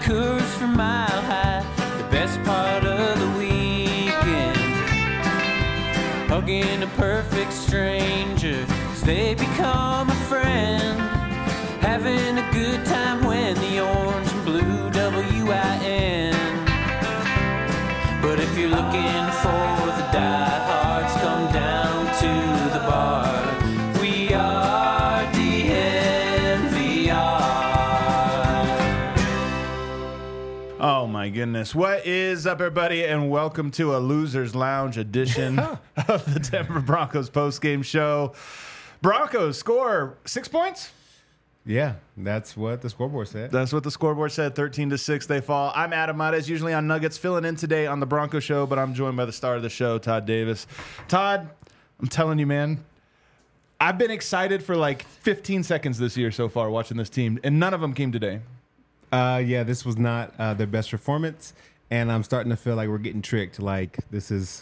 Coors from Mile High, the best part of the weekend. Hugging a perfect stranger as they become a friend. Having a good time when the orange and blue WIN. But if you're looking for the diehards, come down to the bar. We are DNVR. Oh my goodness. What is up, everybody, and welcome to a Losers Lounge edition of the Denver Broncos postgame show. Broncos score 6 points? Yeah, that's what the scoreboard said. That's what the scoreboard said. 13-6, they fall. I'm Adam Mares, usually on Nuggets, filling in today on the Bronco Show, but I'm joined by the star of the show, Todd Davis. Todd, I'm telling you, man, I've been excited for like 15 seconds this year so far watching this team, and none of them came today. Yeah, this was not their best performance, and I'm starting to feel like we're getting tricked. Like, this is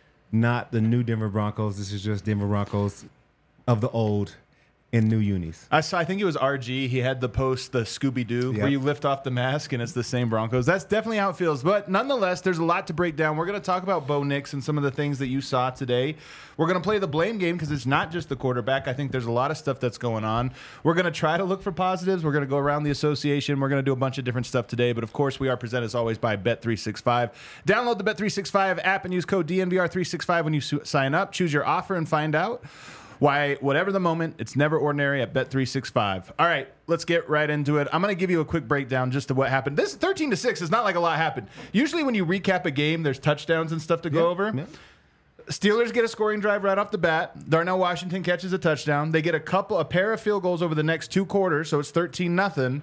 not the new Denver Broncos. This is just Denver Broncos of the old in new unis. I think it was RG. He had the post, the Scooby-Doo, where you lift off the mask and it's the same Broncos. That's definitely how it feels. But nonetheless, there's a lot to break down. We're going to talk about Bo Nix and some of the things that you saw today. We're going to play the blame game because it's not just the quarterback. I think there's a lot of stuff that's going on. We're going to try to look for positives. We're going to go around the association. We're going to do a bunch of different stuff today. But, of course, we are presented, as always, by Bet365. Download the Bet365 app and use code DNVR365 when you sign up. Choose your offer and find out why, whatever the moment, it's never ordinary at Bet365. All right, let's get right into it. I'm going to give you a quick breakdown just to what happened. This 13-6 is not like a lot happened. Usually when you recap a game, there's touchdowns and stuff to go over. Yeah. Steelers get a scoring drive right off the bat. Darnell Washington catches a touchdown. They get a pair of field goals over the next two quarters, so it's 13-0.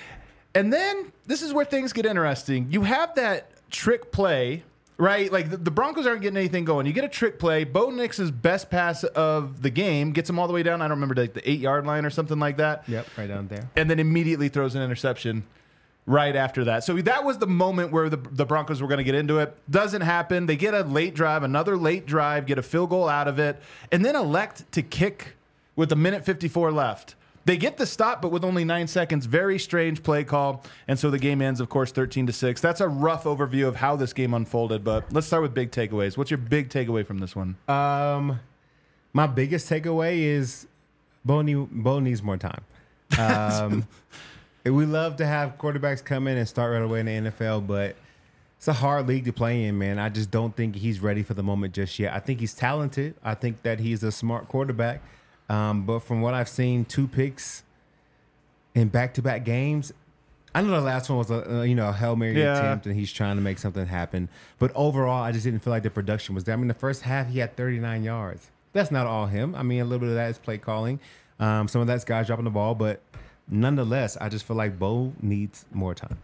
And then this is where things get interesting. You have that trick play, right? Like the Broncos aren't getting anything going. You get a trick play. Bo Nix's best pass of the game gets him all the way down. I don't remember, like the 8-yard line or something like that. Yep, right down there. And then immediately throws an interception right after that. So that was the moment where the Broncos were going to get into it. Doesn't happen. They get a late drive, another late drive, get a field goal out of it, and then elect to kick with 1:54 left. They get the stop, but with only 9 seconds. Very strange play call. And so the game ends, of course, 13-6. That's a rough overview of how this game unfolded. But let's start with big takeaways. What's your big takeaway from this one? My biggest takeaway is Bo needs more time. We love to have quarterbacks come in and start right away in the NFL, but it's a hard league to play in, man. I just don't think he's ready for the moment just yet. I think he's talented. I think that he's a smart quarterback. But from what I've seen, 2 picks in back-to-back games. I know the last one was a Hail Mary attempt, and he's trying to make something happen. But overall, I just didn't feel like the production was there. I mean, the first half, he had 39 yards. That's not all him. I mean, a little bit of that is play calling. Some of that's guys dropping the ball. But nonetheless, I just feel like Bo needs more time.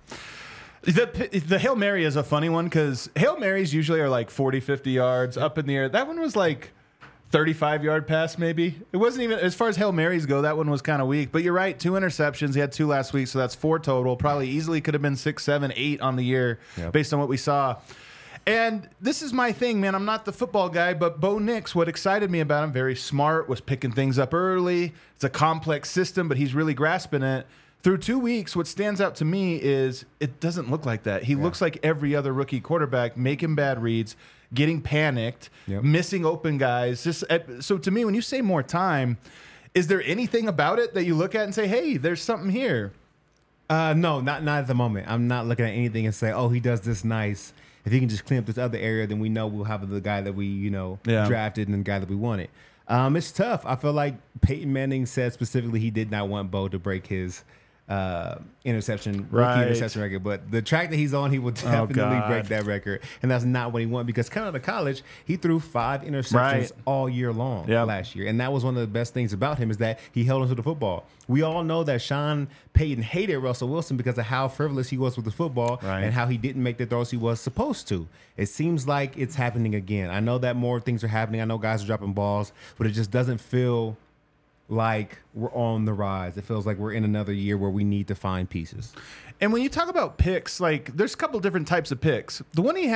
The Hail Mary is a funny one because Hail Marys usually are like 40, 50 yards up in the air. That one was like 35-yard pass, maybe. It wasn't even, as far as Hail Marys go, that one was kind of weak. But you're right, 2 interceptions. He had 2 last week, so that's 4 total. Probably easily could have been 6, 7, 8 on the year based on what we saw. And this is my thing, man. I'm not the football guy, but Bo Nix, what excited me about him, very smart, was picking things up early. It's a complex system, but he's really grasping it. Through 2 weeks, what stands out to me is it doesn't look like that. He looks like every other rookie quarterback, making bad reads, getting panicked, missing open guys. So to me, when you say more time, is there anything about it that you look at and say, hey, there's something here? No, not at the moment. I'm not looking at anything and say, oh, he does this nice. If he can just clean up this other area, then we know we'll have the guy that we, drafted and the guy that we wanted. It's tough. I feel like Peyton Manning said specifically he did not want Bo to break his rookie interception record, but the track that he's on, he will definitely break that record, and that's not what he wanted because coming out of college, he threw 5 interceptions all year long last year, and that was one of the best things about him is that he held onto the football. We all know that Sean Payton hated Russell Wilson because of how frivolous he was with the football and how he didn't make the throws he was supposed to. It seems like it's happening again. I know that more things are happening. I know guys are dropping balls, but it just doesn't feel like we're on the rise. It feels like we're in another year where we need to find pieces. And when you talk about picks, like there's a couple different types of picks. The one he had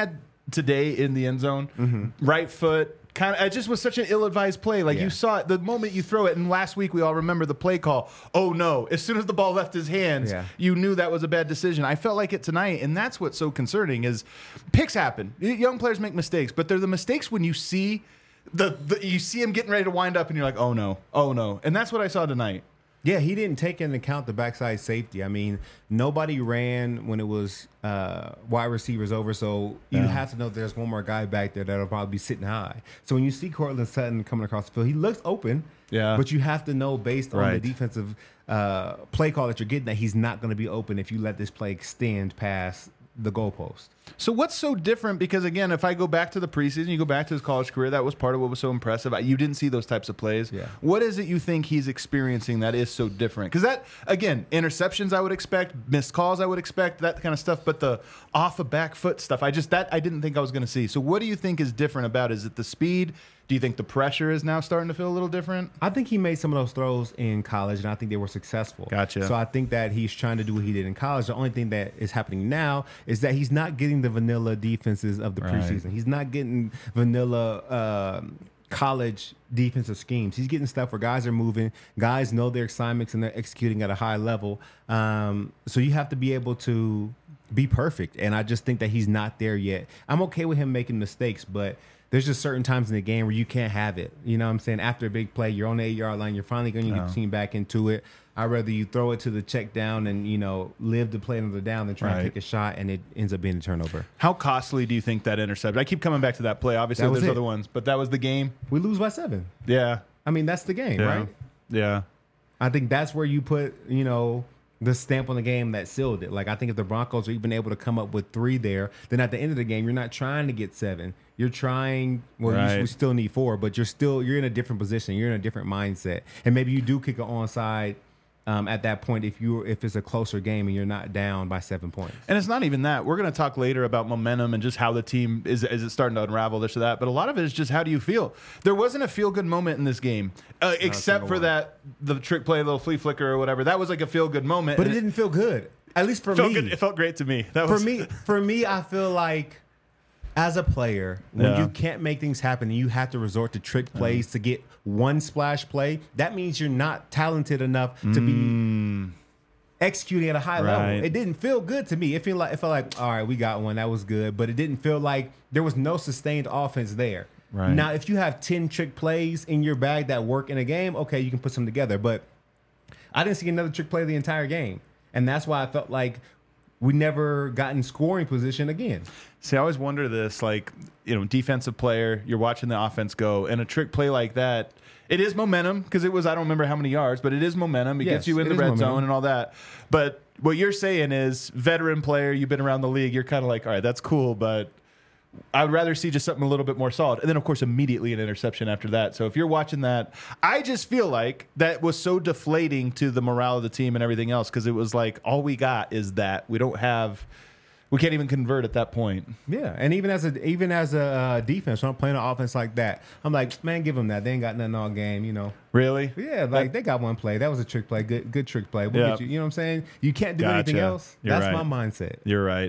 today in the end zone. Right foot. It just was such an ill-advised play. Like you saw it the moment you throw it. And last week we all remember the play call. Oh no! As soon as the ball left his hands, you knew that was a bad decision. I felt like it tonight, and that's what's so concerning. Is picks happen. Young players make mistakes, but they're the mistakes when you see you see him getting ready to wind up, and you're like, oh no, and that's what I saw tonight. Yeah, he didn't take into account the backside safety. I mean, nobody ran when it was wide receivers over, so you have to know there's one more guy back there that'll probably be sitting high. So when you see Courtland Sutton coming across the field, he looks open, but you have to know based on the defensive play call that you're getting that he's not going to be open if you let this play extend past the goalpost. So what's so different? Because again, if I go back to the preseason, you go back to his college career, that was part of what was so impressive. You didn't see those types of plays. Yeah. What is it you think he's experiencing that is so different? Because that, again, interceptions I would expect, missed calls I would expect, that kind of stuff. But the off the back foot stuff, I didn't think I was going to see. So what do you think is different about it? Is it the speed? Do you think the pressure is now starting to feel a little different? I think he made some of those throws in college, and I think they were successful. Gotcha. So I think that he's trying to do what he did in college. The only thing that is happening now is that he's not getting the vanilla defenses of the preseason. He's not getting vanilla college defensive schemes. He's getting stuff where guys are moving, guys know their assignments, and they're executing at a high level. So you have to be able to be perfect, and I just think that he's not there yet. I'm okay with him making mistakes, but there's just certain times in the game where you can't have it. You know what I'm saying? After a big play, you're on the 8-yard line. You're finally going to get the team back into it. I'd rather you throw it to the check down and, live to play another down than try and take a shot, and it ends up being a turnover. How costly do you think that interception? I keep coming back to that play. Obviously, there's other ones, but that was the game. We lose by 7. Yeah. I mean, that's the game, right? Yeah. I think that's where you put, the stamp on the game that sealed it. Like, I think if the Broncos are even able to come up with 3 there, then at the end of the game, you're not trying to get 7. You're trying, we still need 4, but you're in a different position. You're in a different mindset. And maybe you do kick an onside at that point if it's a closer game and you're not down by 7 points. And it's not even that. We're going to talk later about momentum and just how the team is it starting to unravel this or that. But a lot of it is just how do you feel? There wasn't a feel-good moment in this game, except for the trick play, little flea flicker or whatever. That was like a feel-good moment. But it didn't feel good. At least for me. Good. It felt great to me. For me, I feel like as a player, when you can't make things happen and you have to resort to trick plays to get one splash play, that means you're not talented enough to be executing at a high level. It didn't feel good to me. It felt like, all right, we got one. That was good. But it didn't feel like there was no sustained offense there. Right. Now, if you have 10 trick plays in your bag that work in a game, okay, you can put some together. But I didn't see another trick play the entire game. And that's why I felt like we never got in scoring position again. See, I always wonder this, defensive player, you're watching the offense go, and a trick play like that, it is momentum, because it was, I don't remember how many yards, but it is momentum. It gets you in the red zone and all that. But what you're saying is, veteran player, you've been around the league, you're kind of like, all right, that's cool, but I would rather see just something a little bit more solid. And then, of course, immediately an interception after that. So if you're watching that, I just feel like that was so deflating to the morale of the team and everything else, because it was like, all we got is that. We can't even convert at that point. Yeah, and even as a defense, when I'm playing an offense like that, I'm like, man, give them that. They ain't got nothing all game, Really? Yeah, they got one play. That was a trick play. Good trick play. We'll get you. You know what I'm saying? You can't do anything else. That's my mindset. You're right.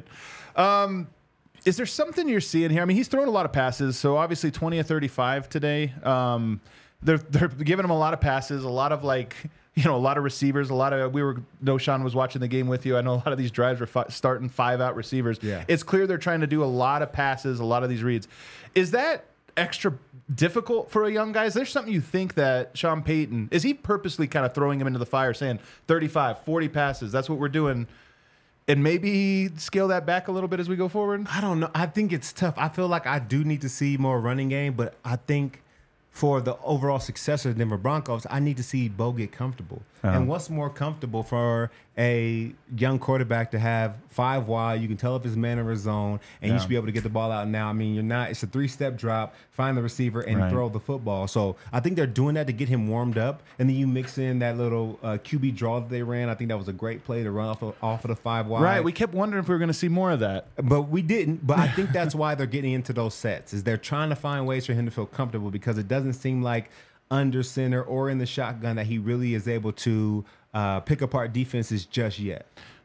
Is there something you're seeing here? I mean, he's thrown a lot of passes, so obviously 20 of 35 today. They're giving him a lot of passes, a lot of a lot of receivers, Sean was watching the game with you. I know a lot of these drives were starting 5-out receivers. Yeah. It's clear they're trying to do a lot of passes, a lot of these reads. Is that extra difficult for a young guy? Is there something you think that Sean Payton, is he purposely kind of throwing him into the fire saying 35, 40 passes, that's what we're doing, and maybe scale that back a little bit as we go forward? I don't know. I think it's tough. I feel like I do need to see more running game, but I think for the overall success of the Denver Broncos, I need to see Bo get comfortable. And what's more comfortable for a young quarterback to have 5 wide? You can tell if his man or his zone, and you should be able to get the ball out now. I mean, it's a 3-step drop, find the receiver, and throw the football. So I think they're doing that to get him warmed up. And then you mix in that little QB draw that they ran. I think that was a great play to run off of the 5 wide. Right. We kept wondering if we were going to see more of that. But we didn't. But I think that's why they're getting into those sets, is they're trying to find ways for him to feel comfortable, because it doesn't seem like under center or in the shotgun that he really is able to pick apart defenses just yet.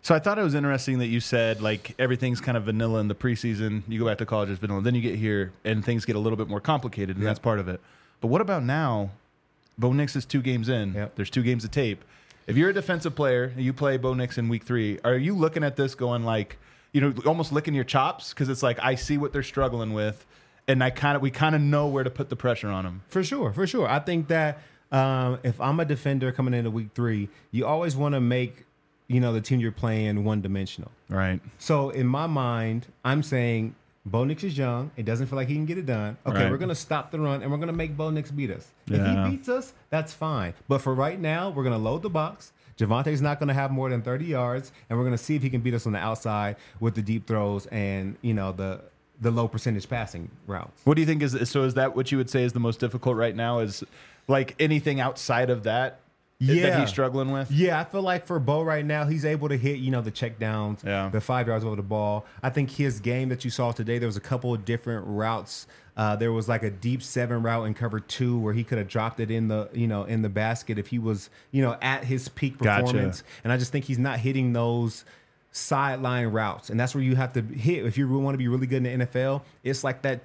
So I thought it was interesting that you said, like, everything's kind of vanilla in the preseason. You go back to college, it's vanilla. Then you get here, and things get a little bit more complicated, and that's part of it. But what about now? Bo Nix is 2 games in. Yep. There's 2 games of tape. If you're a defensive player and you play Bo Nix in week 3, are you looking at this going like, almost licking your chops? Because it's like, I see what they're struggling with, and we kind of know where to put the pressure on them. For sure. I think that if I'm a defender coming into week 3, you always want to make the team you're playing one-dimensional. Right. So in my mind, I'm saying Bo Nix is young. It doesn't feel like he can get it done. Okay, We're going to stop the run, and we're going to make Bo Nix beat us. If he beats us, that's fine. But for right now, we're going to load the box. Javonte's not going to have more than 30 yards, and we're going to see if he can beat us on the outside with the deep throws and, the low percentage passing routes. What do you think is that what you would say is the most difficult right now, is like anything outside of that? That he's struggling with? Yeah, I feel like for Bo right now, he's able to hit, the check downs, the 5 yards over the ball. I think his game that you saw today, there was a couple of different routes. There was like a deep 7 route in cover 2 where he could have dropped it in the, in the basket if he was, at his peak performance. Gotcha. And I just think he's not hitting those sideline routes, and that's where you have to hit if you want to be really good in the NFL. It's like that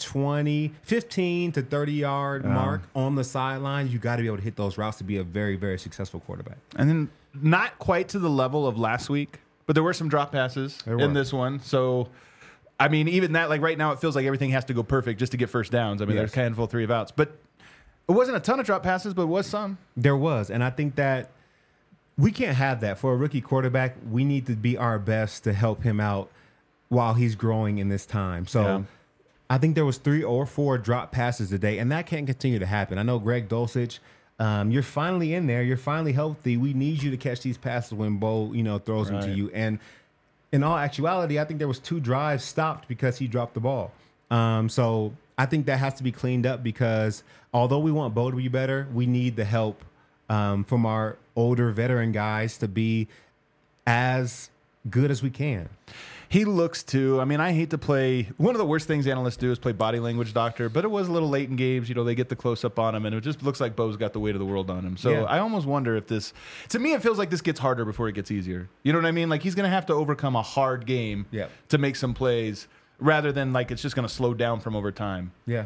15 to 30 yard mark on the sideline. You got to be able to hit those routes to be a very, very successful quarterback. And then not quite to the level of last week, but there were some drop passes in this one. So I mean, even that, like right now, it feels like everything has to go perfect just to get first downs. I mean, there's a handful of 3 of outs, but it wasn't a ton of drop passes, but it was some. There was, and I think that we can't have that. For a rookie quarterback, we need to be our best to help him out while he's growing in this time. So I think there was 3 or 4 drop passes today, and that can't continue to happen. I know Greg Dulcich, you're finally in there. You're finally healthy. We need you to catch these passes when Bo, throws them to you. And in all actuality, I think there was 2 drives stopped because he dropped the ball. So I think that has to be cleaned up because although we want Bo to be better, we need the help from our older veteran guys to be as good as we can. He looks to, I mean, I hate to play, one of the worst things analysts do is play body language doctor, but it was a little late in games. They get the close up on him, and it just looks like Bo's got the weight of the world on him. So I almost wonder if this, to me, it feels like this gets harder before it gets easier. You know what I mean? Like he's going to have to overcome a hard game to make some plays rather than like it's just going to slow down from over time. Yeah.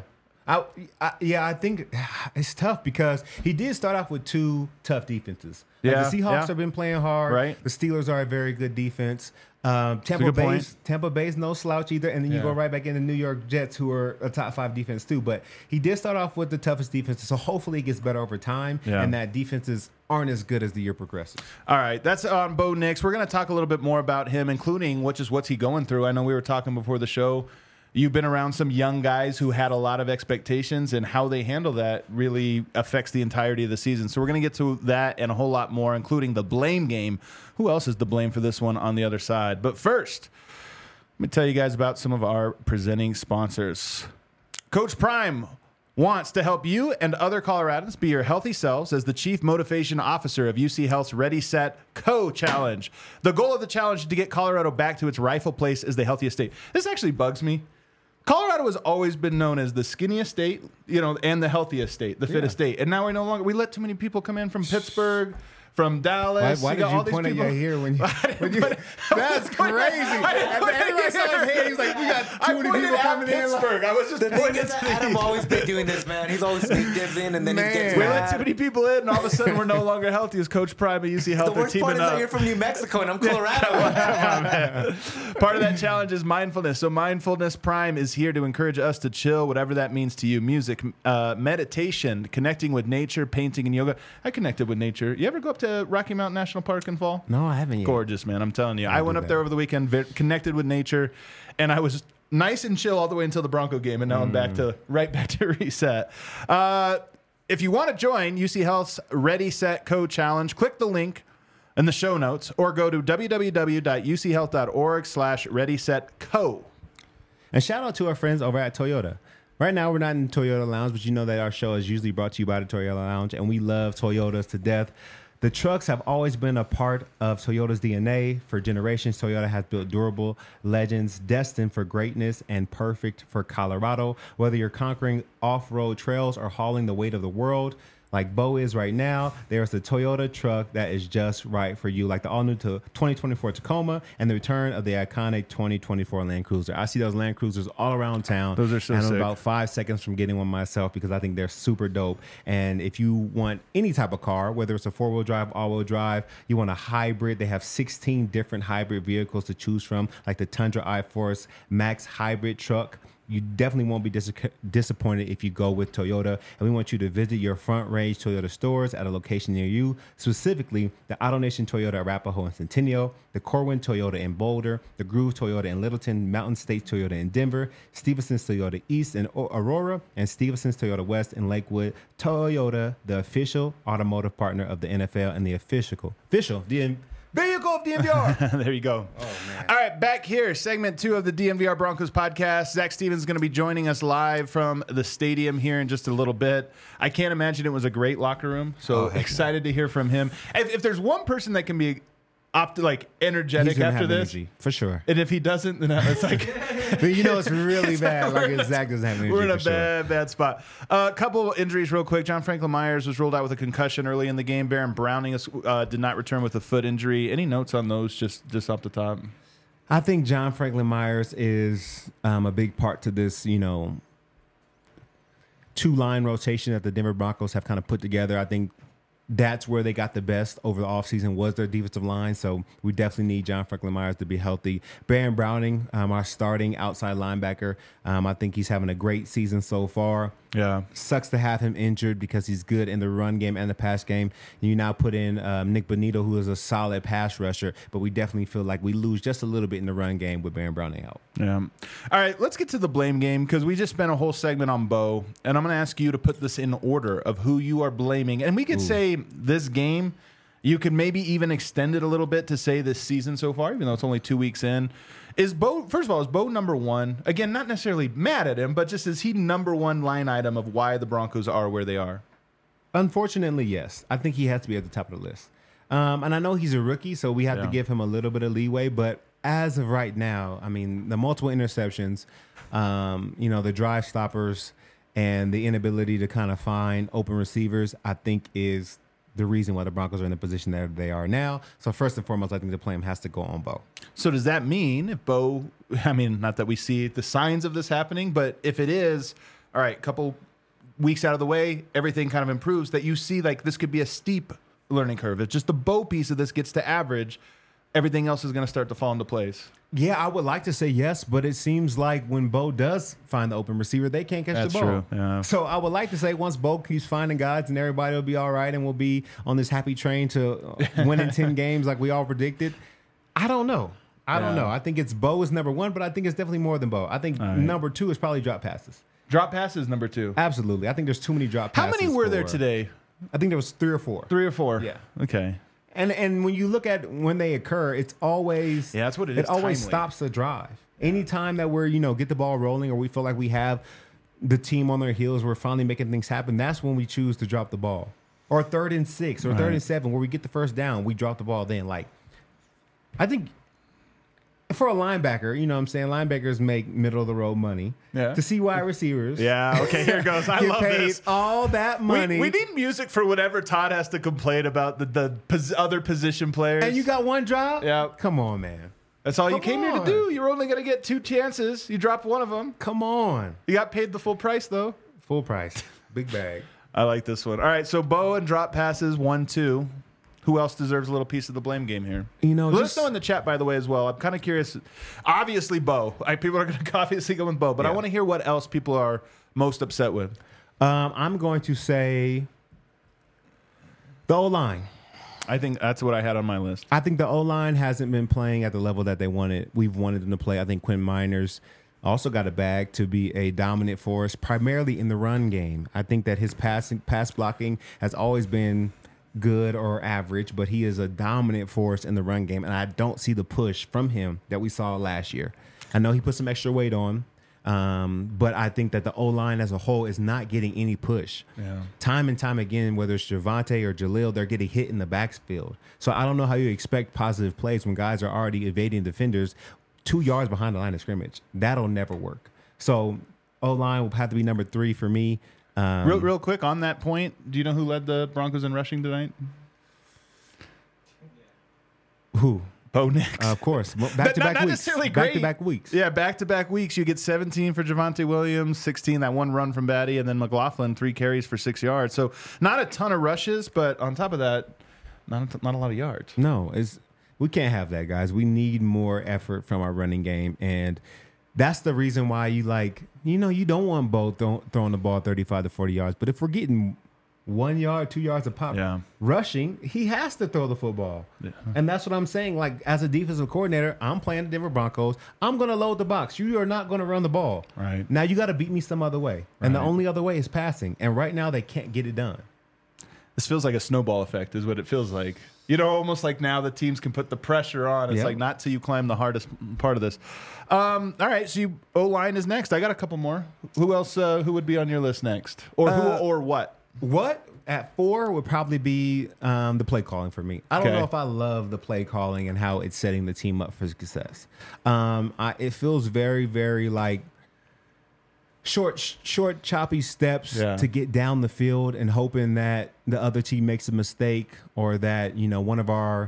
I think it's tough because he did start off with 2 tough defenses. The Seahawks have been playing hard. Right. The Steelers are a very good defense. Tampa Bay's no slouch either, and then you go right back into New York Jets, who are a top 5 defense too. But he did start off with the toughest defense, so hopefully it gets better over time, and that defenses aren't as good as the year progresses. All right, that's on Bo Nix. We're going to talk a little bit more about him, including what's he going through. I know we were talking before the show. You've been around some young guys who had a lot of expectations, and how they handle that really affects the entirety of the season. So we're going to get to that and a whole lot more, including the blame game. Who else is to blame for this one on the other side? But first, let me tell you guys about some of our presenting sponsors. Coach Prime wants to help you and other Coloradans be your healthy selves as the Chief Motivation Officer of UC Health's Ready, Set, Co Challenge. The goal of the challenge is to get Colorado back to its rightful place as the healthiest state. This actually bugs me. Colorado has always been known as the skinniest state, and the healthiest state, the fittest state. And now we let too many people come in from Pittsburgh, from Dallas. Why did you point at your hair when you that's crazy. Everybody saw his head. He's like, we got too many people coming in. Pittsburgh. I was just pointing at Adam always been doing this, man. He's always sneak dips in, and then he gets we let too many people in, and all of a sudden we're no longer healthy as Coach Prime at UC Health. The worst part is that you're from New Mexico, and I'm Colorado. Part of that challenge is mindfulness. So Mindfulness Prime is here to encourage us to chill, whatever that means to you. Music, meditation, connecting with nature, painting, and yoga. I connected with nature. You ever go up to Rocky Mountain National Park in fall? No, I haven't yet. Gorgeous, man. I'm telling you. I went up there over the weekend, connected with nature, and I was nice and chill all the way until the Bronco game, and now I'm right back to reset. If you want to join UC Health's Ready, Set, Co Challenge, click the link in the show notes or go to www.uchealth.org/readysetco. And shout out to our friends over at Toyota. Right now, we're not in Toyota Lounge, but you know that our show is usually brought to you by the Toyota Lounge, and we love Toyotas to death. The trucks have always been a part of Toyota's DNA. For generations, Toyota has built durable legends destined for greatness and perfect for Colorado. Whether you're conquering off-road trails or hauling the weight of the world, like Bo is right now, there's a Toyota truck that is just right for you, like the all-new 2024 Tacoma and the return of the iconic 2024 Land Cruiser. I see those Land Cruisers all around town. Those are so and sick. I'm about 5 seconds from getting one myself because I think they're super dope. And if you want any type of car, whether it's a four-wheel drive, all-wheel drive, you want a hybrid, they have 16 different hybrid vehicles to choose from, like the Tundra iForce Max hybrid truck. You definitely won't be disappointed if you go with Toyota. And we want you to visit your Front Range Toyota stores at a location near you, specifically the AutoNation Toyota Arapahoe and Centennial, the Corwin Toyota in Boulder, the Groove Toyota in Littleton, Mountain State Toyota in Denver, Stevenson's Toyota East in Aurora, and Stevenson's Toyota West in Lakewood. Toyota, the official automotive partner of the NFL and the official vehicle of DNVR. There you go. Oh, man. All right, back here, segment 2 of the DNVR Broncos podcast. Zach Stevens is going to be joining us live from the stadium here in just a little bit. I can't imagine it was a great locker room, so excited to hear from him. If there's one person that can be energetic after this, energy, for sure. And if he doesn't, then it's like... But you know it's really bad. Like Zach doesn't have energy. We're in a bad spot. A couple injuries real quick. John Franklin Myers was ruled out with a concussion early in the game. Baron Browning did not return with a foot injury. Any notes on those just off the top? I think John Franklin Myers is a big part to this, two-line rotation that the Denver Broncos have kind of put together. I think that's where they got the best over the offseason was their defensive line. So we definitely need John Franklin Myers to be healthy. Baron Browning, our starting outside linebacker, I think he's having a great season so far. Yeah. Sucks to have him injured because he's good in the run game and the pass game. And you now put in Nick Bonito, who is a solid pass rusher, but we definitely feel like we lose just a little bit in the run game with Baron Browning out. Yeah. All right, let's get to the blame game because we just spent a whole segment on Bo, and I'm going to ask you to put this in order of who you are blaming. And we could say this game, you could maybe even extend it a little bit to say this season so far, even though it's only 2 weeks in. Is Bo, first of all, is Bo number one? Again, not necessarily mad at him, but just is he number one line item of why the Broncos are where they are? Unfortunately, yes. I think he has to be at the top of the list. And I know he's a rookie, so we have to give him a little bit of leeway. But as of right now, I mean, the multiple interceptions, the drive stoppers, and the inability to kind of find open receivers, I think is the reason why the Broncos are in the position that they are now. So first and foremost, I think the blame has to go on Bo. So does that mean if Bo, I mean, not that we see the signs of this happening, but if it is, all right, couple weeks out of the way, everything kind of improves, that you see like this could be a steep learning curve. If just the Bo piece of this gets to average, everything else is going to start to fall into place. Yeah, I would like to say yes, but it seems like when Bo does find the open receiver, they can't catch the ball. That's true. Yeah. So I would like to say once Bo keeps finding guys and everybody will be all right and we'll be on this happy train to winning 10 games like we all predicted. I don't know. I don't know. I think it's Bo is number one, but I think it's definitely more than Bo. I think number two is probably drop passes. Drop passes number two. Absolutely. I think there's too many drop How passes. many were there today? I think there was 3 or 4. 3 or 4? Yeah. Okay. And when you look at when they occur, it's always that's what it is. It always timely. stops the drive. Anytime that we're get the ball rolling or we feel like we have the team on their heels, we're finally making things happen. That's when we choose to drop the ball. Or 3rd and 6 or 3rd and 7 where we get the first down, we drop the ball. Then I think for a linebacker, you know what I'm saying, linebackers make middle of the road money. Yeah. To see wide receivers. Yeah. Okay. Here it goes. I get love paid this. all that money. We need music for whatever Todd has to complain about the other position players. And you got one drop? Yeah. Come on, man. That's all you Come came here to on. do. You're only going to get 2 chances. You dropped one of them. Come on. You got paid the full price, though. Full price. Big bag. I like this one. All right, so Bo and drop passes, 1-2. Who else deserves a little piece of the blame game here? Let us know in the chat, by the way, as well. I'm kind of curious. Obviously, Bo. People are going to obviously go with Bo, but I want to hear what else people are most upset with. I'm going to say the O-line. I think that's what I had on my list. I think the O-line hasn't been playing at the level that we've wanted them to play. I think Quinn Miners also got a bag to be a dominant force, primarily in the run game. I think that his pass blocking has always been good or average, but he is a dominant force in the run game, and I don't see the push from him that we saw last year. I know he put some extra weight on, but I think that the O-line as a whole is not getting any push. Yeah. Time and time again, whether it's Javonte or Jaleel, they're getting hit in the backfield. So I don't know how you expect positive plays when guys are already evading defenders 2 yards behind the line of scrimmage. That'll never work. So O-line will have to be number 3 for me. Real quick on that point, do you know who led the Broncos in rushing tonight? Who? Bo Nix. Of course. Back-to-back not weeks. necessarily great. Back-to-back weeks. Yeah, back-to-back weeks. You get 17 for Javonte Williams, 16, that one run from Batty, and then McLaughlin, 3 carries for 6 yards. So not a ton of rushes, but on top of that, not a lot of yards. No, we can't have that, guys. We need more effort from our running game, and that's the reason why you don't want Bo throwing the ball 35 to 40 yards. But if we're getting 1 yard, 2 yards a pop rushing, he has to throw the football. Yeah. And that's what I'm saying. Like, as a defensive coordinator, I'm playing the Denver Broncos. I'm going to load the box. You are not going to run the ball. Right. Now you got to beat me some other way. And the only other way is passing. And right now they can't get it done. This feels like a snowball effect is what it feels like. Almost like now the teams can put the pressure on. It's like not till you climb the hardest part of this. All right, so O-line is next. I got a couple more. Who else? Who would be on your list next? Or who or what? What at 4 would probably be the play calling for me. I don't know if I love the play calling and how it's setting the team up for success. It feels very, very like short, choppy steps to get down the field and hoping that the other team makes a mistake or that one of our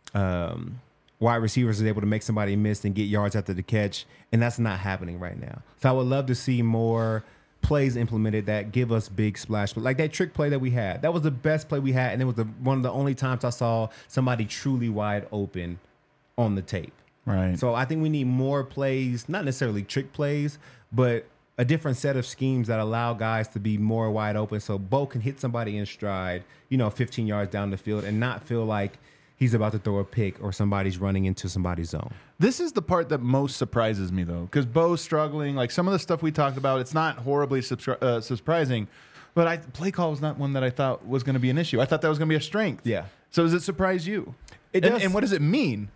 wide receivers is able to make somebody miss and get yards after the catch, and that's not happening right now. So I would love to see more plays implemented that give us big splash, but like that trick play that we had, that was the best play we had, and it was one of the only times I saw somebody truly wide open on the tape. Right. So I think we need more plays, not necessarily trick plays, but a different set of schemes that allow guys to be more wide open, so Bo can hit somebody in stride, 15 yards down the field, and not feel like he's about to throw a pick or somebody's running into somebody's zone. This is the part that most surprises me, though, because Bo's struggling. Like some of the stuff we talked about, it's not horribly surprising, but play call was not one that I thought was going to be an issue. I thought that was going to be a strength. Yeah. So does it surprise you? It does. And what does it mean?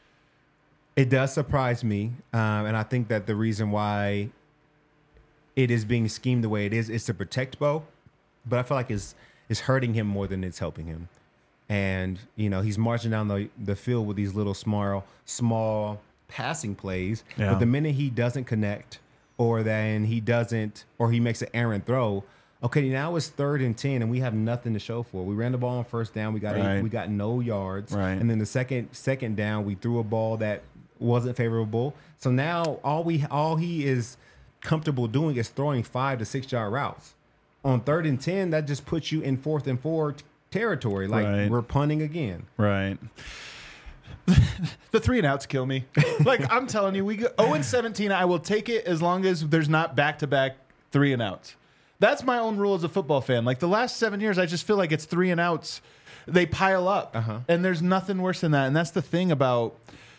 It does surprise me, and I think that the reason why it is being schemed the way it is to protect Bo, but I feel like it's hurting him more than it's helping him. And, he's marching down the field with these little small passing plays. Yeah. But the minute he doesn't connect or he makes an errant throw, okay, now it's 3rd and 10 and we have nothing to show for it. We ran the ball on first down. We got no yards. Right. And then the second down, we threw a ball that wasn't favorable. So now all he is comfortable doing is throwing 5 to 6 yard routes. On 3rd and 10, that just puts you in 4th and 4 territory. Like we're punting again. Right. The 3 and outs kill me. Like I'm telling you, we go 0-17. I will take it as long as there's not back-to-back 3 and outs. That's my own rule as a football fan. Like the last 7 years, I just feel like it's 3 and outs. They pile up, and there's nothing worse than that. And that's the thing about,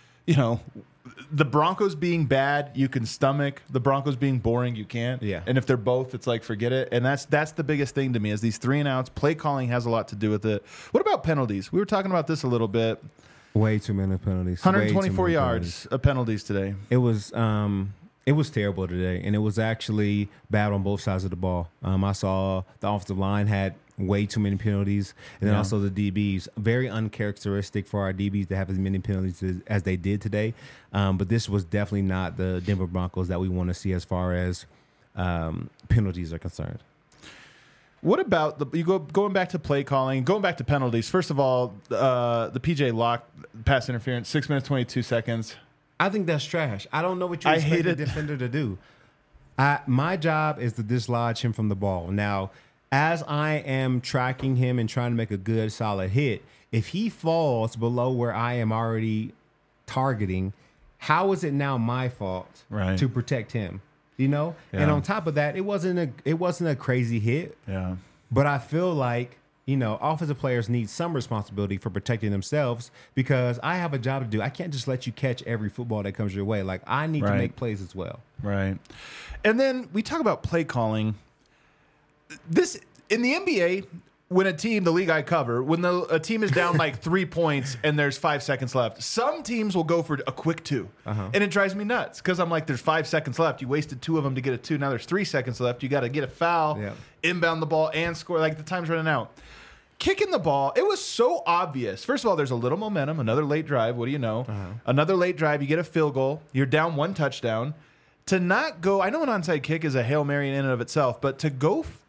the Broncos being bad, you can stomach. The Broncos being boring, you can't. Yeah. And if they're both, it's like forget it. And that's the biggest thing to me is these 3 and outs. Play calling has a lot to do with it. What about penalties? We were talking about this a little bit. Way too many penalties. 124 yards of penalties today. It was terrible today, and it was actually bad on both sides of the ball. I saw the offensive line had way too many penalties, and then also the DBs. Very uncharacteristic for our DBs to have as many penalties as they did today. But this was definitely not the Denver Broncos that we want to see as far as penalties are concerned. What about going back to play calling, going back to penalties? First of all, the PJ Locke pass interference, 6 minutes 22 seconds. I think that's trash. I don't know what you expect the defender to do. My job is to dislodge him from the ball. Now, as I am tracking him and trying to make a good, solid hit, if he falls below where I am already targeting, how is it now my fault to protect him? Yeah. And on top of that, it wasn't a crazy hit. Yeah. But I feel like, offensive players need some responsibility for protecting themselves because I have a job to do. I can't just let you catch every football that comes your way. Like, I need to make plays as well. Right. And then we talk about play calling. This in the NBA, when the league I cover, when a team is down like 3 points and there's 5 seconds left, some teams will go for a quick 2. And it drives me nuts because I'm like, there's 5 seconds left. You wasted 2 of them to get a 2. Now there's 3 seconds left. You got to get a foul, inbound the ball, and score. Like the time's running out. Kicking the ball, it was so obvious. First of all, there's a little momentum. Another late drive. What do you know? Another late drive. You get a field goal. You're down 1 touchdown. To not go, I know an onside kick is a Hail Mary in and of itself, but to go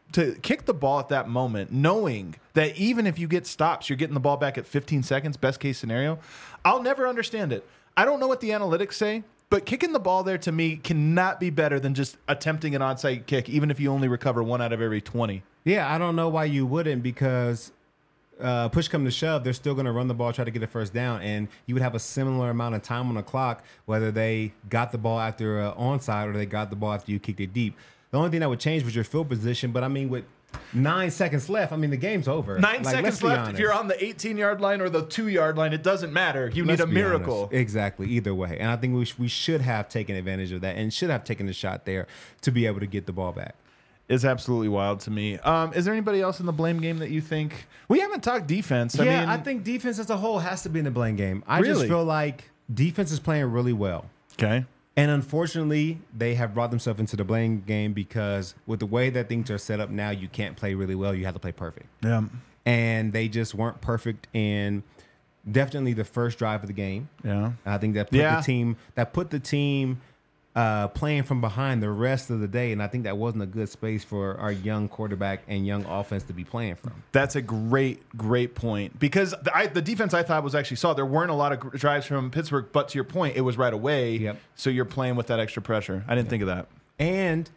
to kick the ball at that moment, knowing that even if you get stops, you're getting the ball back at 15 seconds, best case scenario. I'll never understand it. I don't know what the analytics say, but kicking the ball there to me cannot be better than just attempting an onside kick, even if you only recover 1 out of every 20. Yeah, I don't know why you wouldn't, because push come to shove, they're still going to run the ball, try to get a first down, and you would have a similar amount of time on the clock, whether they got the ball after onside or they got the ball after you kicked it deep. The only thing that would change was your field position, but I mean, with 9 seconds left, I mean, the game's over. 9 seconds left. If you're on the 18-yard line or the 2-yard line, it doesn't matter. You need a miracle. Honest. Exactly. Either way. And I think we should have taken advantage of that and should have taken the shot there to be able to get the ball back. It's absolutely wild to me. Is there anybody else in the blame game that you think? We haven't talked defense. I think defense as a whole has to be in the blame game. I just feel like defense is playing really well. Okay. And unfortunately, they have brought themselves into the blame game because with the way that things are set up now, you can't play really well. You have to play perfect. Yeah. And they just weren't perfect in definitely the first drive of the game. Yeah. I think that put the team playing from behind the rest of the day, and I think that wasn't a good space for our young quarterback and young offense to be playing from. That's a great point, because the defense I thought was actually solid. There weren't a lot of drives from Pittsburgh, but to your point, it was right away. Yep. So you're playing with that extra pressure. I didn't think of that. And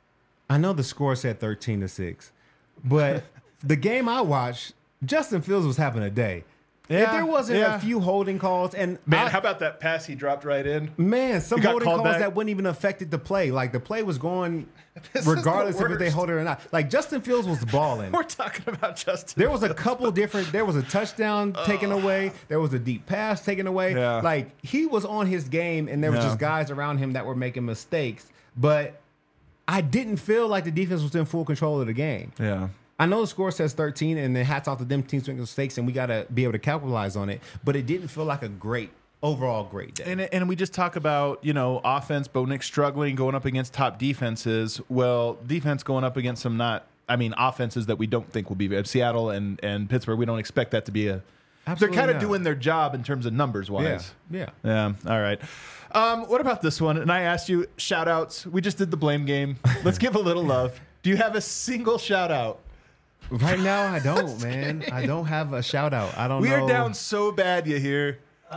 I know the score said 13-6, but the game I watched, Justin Fields was having a day. Yeah, if there wasn't a few holding calls, and how about that pass he dropped right in? Man, some holding calls that wouldn't even affect the play. Like the play was going regardless of if they hold it or not. Like Justin Fields was balling. We're talking about Justin. There was a couple different. There was a touchdown taken away. There was a deep pass taken away. Yeah. Like he was on his game, and there was just guys around him that were making mistakes. But I didn't feel like the defense was in full control of the game. Yeah. I know the score says 13, and then hats off to them teams making mistakes, and we got to be able to capitalize on it. But it didn't feel like a overall great day. And we just talk about, offense, Bo Nix struggling, going up against top defenses. Well, defense going up against some offenses that we don't think will be. Seattle and Pittsburgh, we don't expect that to be a... Absolutely they're kind of doing their job in terms of numbers-wise. Yeah. All right. What about this one? And I asked you, shout-outs. We just did the blame game. Let's give a little love. Do you have a single shout-out? Right now, I don't, man. I don't have a shout out. I don't know. We are down so bad, you hear?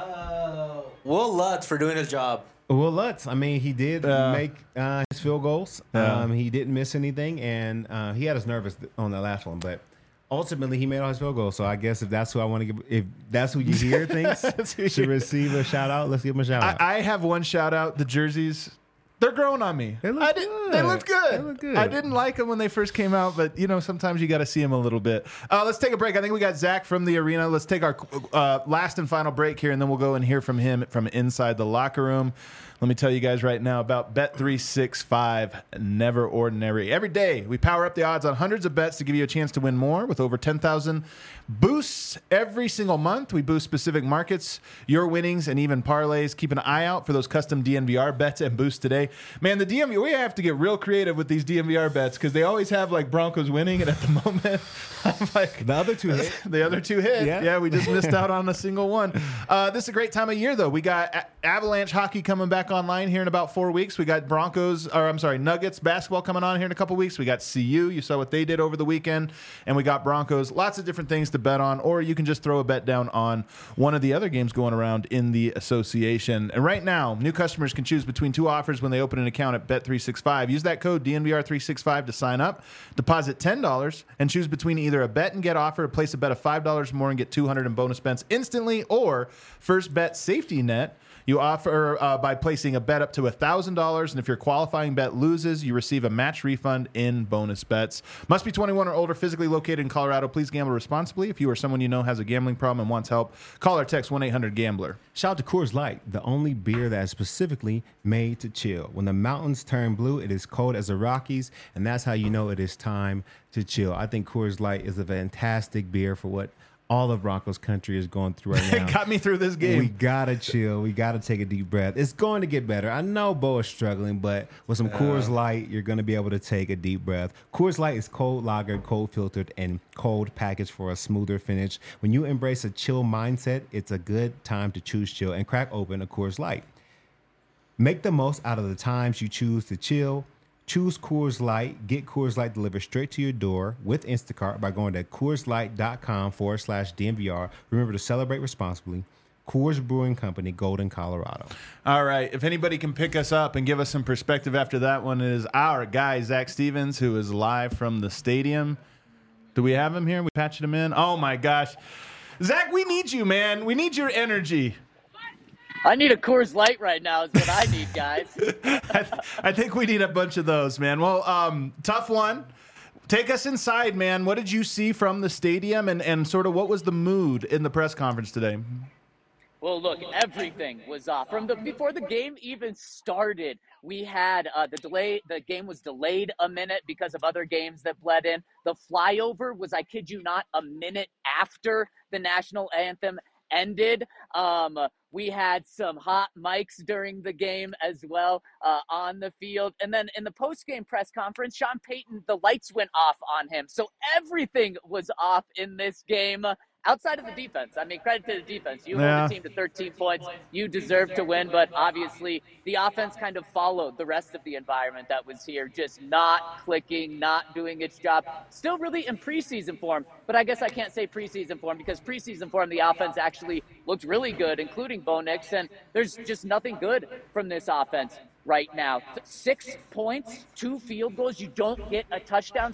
Will Lutz for doing his job. Will Lutz. I mean, he did make his field goals. He didn't miss anything, and he had us nervous on the last one, but ultimately he made all his field goals. So I guess if that's who I want to give, if that's who you hear thinks should receive a shout out, let's give him a shout out. I have one shout out. The jerseys. They're growing on me. They look good. They look good. I didn't like them when they first came out, but sometimes you got to see them a little bit. Let's take a break. I think we got Zach from the arena. Let's take our last and final break here, and then we'll go and hear from him from inside the locker room. Let me tell you guys right now about Bet365, never ordinary. Every day, we power up the odds on hundreds of bets to give you a chance to win more with over 10,000 boosts every single month. We boost specific markets, your winnings, and even parlays. Keep an eye out for those custom DNVR bets and boosts today. Man, the DNVR, we have to get real creative with these DNVR bets because they always have like Broncos winning, and at the moment, I'm like... The other two hit. The other two hit. Yeah, we just missed out on a single one. This is a great time of year, though. We got Avalanche hockey coming back online here in about 4 weeks. We got Nuggets basketball coming on here in a couple weeks. We got CU. You saw what they did over the weekend. And we got Broncos. Lots of different things to bet on, or you can just throw a bet down on one of the other games going around in the association. And right now, new customers can choose between two offers when they open an account at Bet365. Use that code DNVR365 to sign up. Deposit $10 and choose between either a bet and get offer or place a bet of $5 more and get $200 in bonus bets instantly, or first bet safety net. You offer by placing a bet up to $1,000, and if your qualifying bet loses, you receive a match refund in bonus bets. Must be 21 or older, physically located in Colorado. Please gamble responsibly. If you or someone you know has a gambling problem and wants help, call or text 1-800-GAMBLER. Shout out to Coors Light, the only beer that is specifically made to chill. When the mountains turn blue, it is cold as the Rockies, and that's how you know it is time to chill. I think Coors Light is a fantastic beer for what all of Broncos country is going through right now. It got me through this game. We got to chill. We got to take a deep breath. It's going to get better. I know Bo is struggling, but with some Coors Light, you're going to be able to take a deep breath. Coors Light is cold lagered, cold filtered, and cold packaged for a smoother finish. When you embrace a chill mindset, it's a good time to choose chill and crack open a Coors Light. Make the most out of the times you choose to chill. Choose Coors Light. Get Coors Light delivered straight to your door with Instacart by going to CoorsLight.com/DNVR. Remember to celebrate responsibly. Coors Brewing Company, Golden, Colorado. All right. If anybody can pick us up and give us some perspective after that one, is our guy, Zach Stevens, who is live from the stadium. Do we have him here? We patched him in? Oh, my gosh. Zach, we need you, man. We need your energy. I need a Coors Light right now is what I need, guys. I think we need a bunch of those, man. Well, tough one. Take us inside, man. What did you see from the stadium, and sort of what was the mood in the press conference today? Well, look, everything was off. Before the game even started, we had the game was delayed a minute because of other games that bled in. The flyover was, I kid you not, a minute after the national anthem ended. We had some hot mics during the game as well on the field. And then in the post-game press conference, Sean Payton, the lights went off on him. So everything was off in this game. Outside of the defense, I mean, credit to the defense. You hold the team to 13 points. You deserve to win, but obviously the offense kind of followed the rest of the environment that was here, just not clicking, not doing its job. Still really in preseason form, but I guess I can't say preseason form because preseason form, the offense actually looked really good, including Bo Nix, and there's just nothing good from this offense right now. 6 points, 2 field goals. You don't get a touchdown,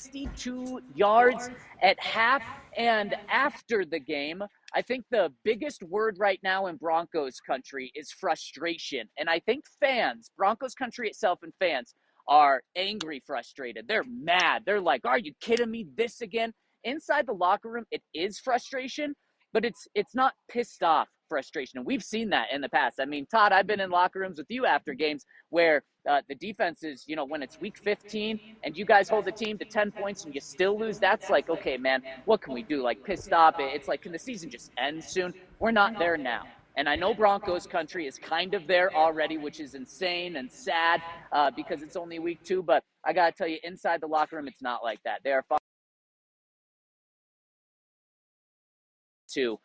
62 yards at half and after the game. I think the biggest word right now in Broncos country is frustration. And I think fans, Broncos country itself and fans, are angry, frustrated. They're mad. They're like, are you kidding me? This again? Inside the locker room, it is frustration, but it's not pissed off frustration. And we've seen that in the past. I mean, Todd, I've been in locker rooms with you after games where the defense is, when it's week 15 and you guys hold the team to 10 points and you still lose, that's like, okay, man, what can we do? Like, pissed off. It's like, can the season just end soon? We're not there now. And I know Broncos country is kind of there already, which is insane and sad because it's only week 2. But I got to tell you, inside the locker room, it's not like that. They are far too.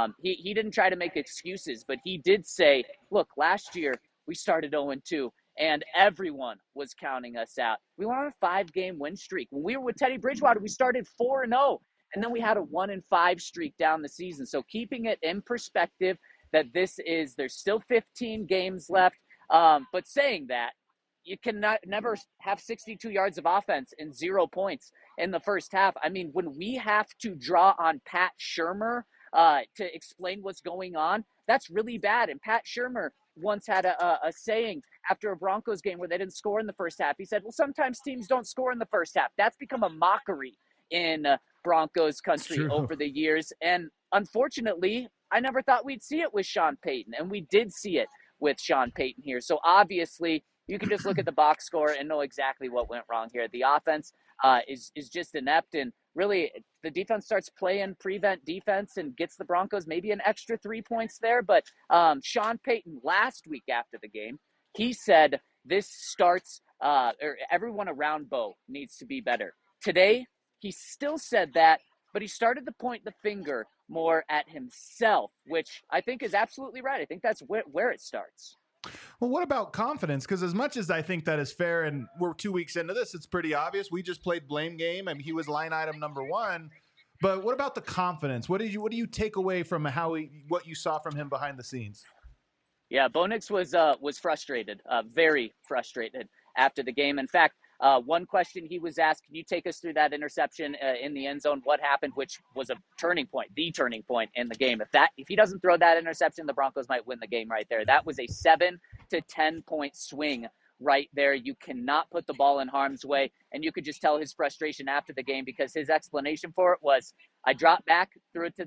He didn't try to make excuses, but he did say, look, last year we started 0-2 and everyone was counting us out. We were on a 5-game win streak. When we were with Teddy Bridgewater, we started 4-0 and then we had a 1-5 streak down the season. So keeping it in perspective that there's still 15 games left. But saying that, you cannot never have 62 yards of offense and 0 points in the first half. I mean, when we have to draw on Pat Shurmur to explain what's going on, that's really bad. And Pat Shurmur once had a saying after a Broncos game where they didn't score in the first half. He said, well, sometimes teams don't score in the first half. That's become a mockery in Broncos country over the years. And unfortunately, I never thought we'd see it with Sean Payton. And we did see it with Sean Payton here. So obviously, you can just look at the box score and know exactly what went wrong here. The offense is just inept, and really the defense starts playing prevent defense and gets the Broncos maybe an extra 3 points there. But Sean Payton last week after the game, he said this starts or everyone around Bo needs to be better. Today, he still said that, but he started to point the finger more at himself, which I think is absolutely right. I think that's where it starts. Well, what about confidence? Because as much as I think that is fair, and we're 2 weeks into this, it's pretty obvious. We just played blame game, and he was line item number 1. But what about the confidence? What do you take away from what you saw from him behind the scenes? Yeah, Bo Nix was frustrated, very frustrated after the game. In fact, one question he was asked, can you take us through that interception in the end zone? What happened, which was a turning point in the game. If he doesn't throw that interception, the Broncos might win the game right there. That was a 7 to 10 point swing right there. You cannot put the ball in harm's way. And you could just tell his frustration after the game because his explanation for it was, I dropped back, threw it to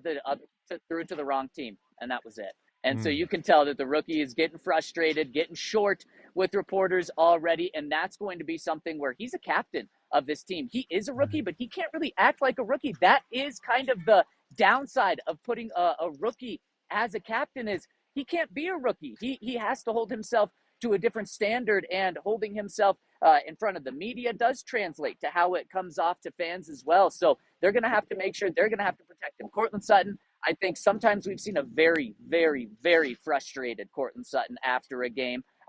the wrong team, and that was it. And so you can tell that the rookie is getting frustrated, getting short with reporters already, and that's going to be something where he's a captain of this team. He is a rookie, but he can't really act like a rookie. That is kind of the downside of putting a rookie as a captain is he can't be a rookie. He has to hold himself to a different standard, and holding himself in front of the media does translate to how it comes off to fans as well. So they're going to have to make sure they're going to have to protect him. Courtland Sutton, I think sometimes we've seen a very, very, very frustrated Courtland Sutton after a game.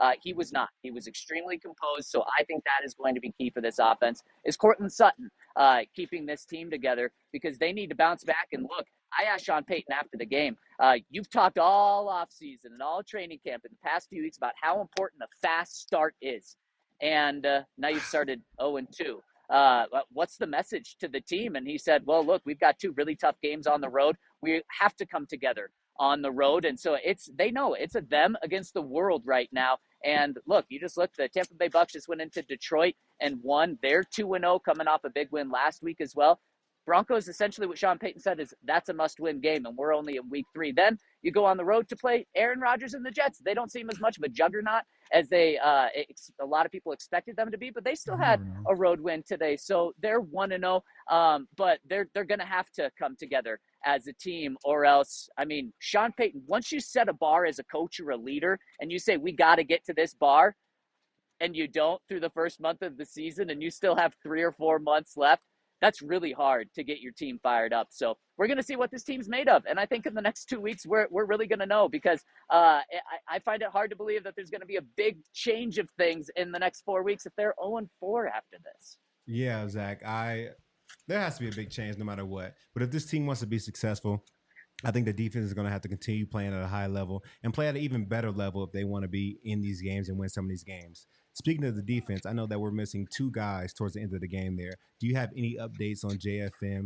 He was not. He was extremely composed. So I think that is going to be key for this offense. Is Cortland Sutton keeping this team together, because they need to bounce back. And look, I asked Sean Payton after the game, you've talked all offseason and all training camp in the past few weeks about how important a fast start is. And now you've started 0-2. What's the message to the team? And he said, well, look, we've got 2 really tough games on the road. We have to come together on the road. And so they know it's a them against the world right now. And look, the Tampa Bay Bucks just went into Detroit and won. They're 2-0 coming off a big win last week as well. Broncos, essentially what Sean Payton said is that's a must-win game, and we're only in week 3. Then you go on the road to play Aaron Rodgers and the Jets. They don't seem as much of a juggernaut as a lot of people expected them to be, but they still had a road win today. So they're 1-0, but they're going to have to come together as a team, or else, I mean, Sean Payton, once you set a bar as a coach or a leader and you say, we got to get to this bar, and you don't through the first month of the season and you still have 3 or 4 months left, that's really hard to get your team fired up. So we're going to see what this team's made of. And I think in the next 2 weeks, we're really going to know, because I find it hard to believe that there's going to be a big change of things in the next 4 weeks if they're 0-4 after this. Yeah, Zach, there has to be a big change no matter what. But if this team wants to be successful, I think the defense is going to have to continue playing at a high level and play at an even better level if they want to be in these games and win some of these games. Speaking of the defense, I know that we're missing 2 guys towards the end of the game there. Do you have any updates on JFM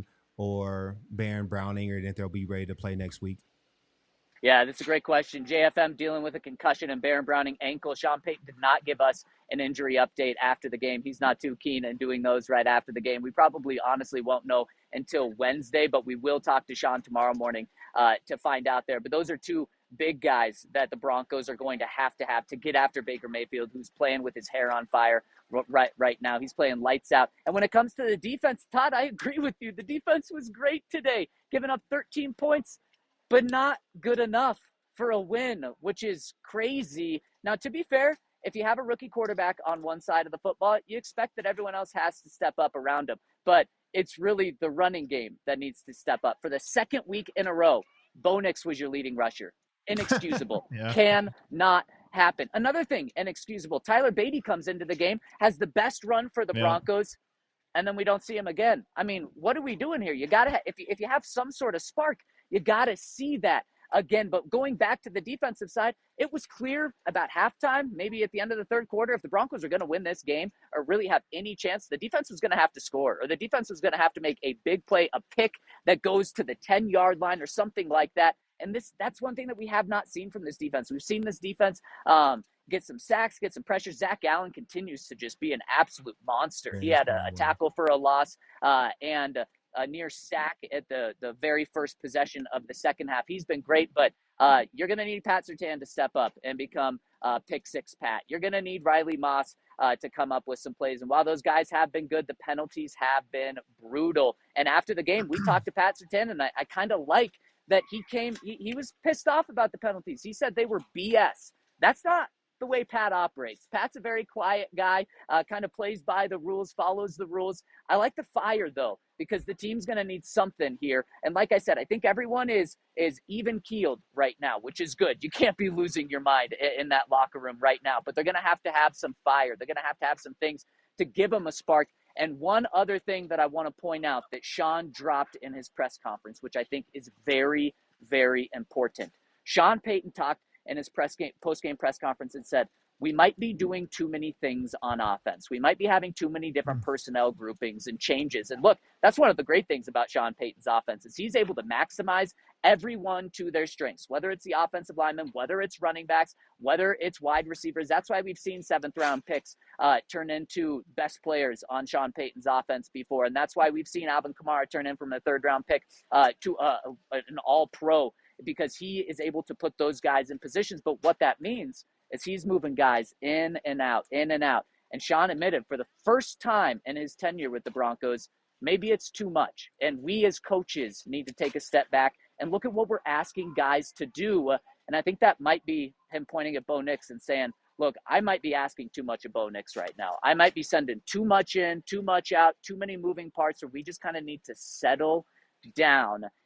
or Baron Browning, or that they'll be ready to play next week? Yeah, that's a great question. JFM dealing with a concussion and Baron Browning ankle. Sean Payton did not give us an injury update after the game. He's not too keen in doing those right after the game. We probably honestly won't know until Wednesday, but we will talk to Sean tomorrow morning to find out there. But those are 2 big guys that the Broncos are going to have to get after Baker Mayfield, who's playing with his hair on fire right now. He's playing lights out. And when it comes to the defense, Todd, I agree with you. The defense was great today, giving up 13 points, but not good enough for a win, which is crazy. Now, to be fair, if you have a rookie quarterback on one side of the football, you expect that everyone else has to step up around him. But it's really the running game that needs to step up. For the second week in a row, Bo Nix was your leading rusher. Inexcusable. Yeah. Cannot happen. Another thing, inexcusable. Tyler Beatty comes into the game, has the best run for the Broncos, and then we don't see him again. I mean, what are we doing here? You got to if you have some sort of spark, you got to see that again. But going back to the defensive side, it was clear about halftime, maybe at the end of the third quarter, if the Broncos are going to win this game or really have any chance, the defense was going to have to score, or the defense was going to have to make a big play, a pick that goes to the 10-yard line or something like that. And that's one thing that we have not seen from this defense. We've seen this defense get some sacks, get some pressure. Zach Allen continues to just be an absolute monster. He had a tackle for a loss and a near sack at the very first possession of the second half. He's been great, but you're going to need Pat Surtain to step up and become pick 6 Pat. You're going to need Riley Moss to come up with some plays. And while those guys have been good, the penalties have been brutal. And after the game, we talked to Pat Surtain, and I kind of like that he was pissed off about the penalties. He said they were BS. That's not the way Pat operates. Pat's a very quiet guy, kind of plays by the rules, follows the rules. I like the fire, though, because the team's going to need something here. And like I said, I think everyone is even-keeled right now, which is good. You can't be losing your mind in that locker room right now. But they're going to have some fire. They're going to have some things to give them a spark. And one other thing that I want to point out that Sean dropped in his press conference, which I think is very, very important. Sean Payton talked in his post-game press conference and said, we might be doing too many things on offense. We might be having too many different personnel groupings and changes. And look, that's one of the great things about Sean Payton's offense is he's able to maximize everyone to their strengths, whether it's the offensive linemen, whether it's running backs, whether it's wide receivers. That's why we've seen 7th-round picks turn into best players on Sean Payton's offense before. And that's why we've seen Alvin Kamara turn in from a 3rd-round pick to an all-pro, because he is able to put those guys in positions. But what that means is he's moving guys in and out. And Sean admitted for the first time in his tenure with the Broncos, maybe it's too much. And we as coaches need to take a step back and look at what we're asking guys to do. And I think that might be him pointing at Bo Nix and saying, look, I might be asking too much of Bo Nix right now. I might be sending too much in, too much out, too many moving parts, or we just kind of need to settle down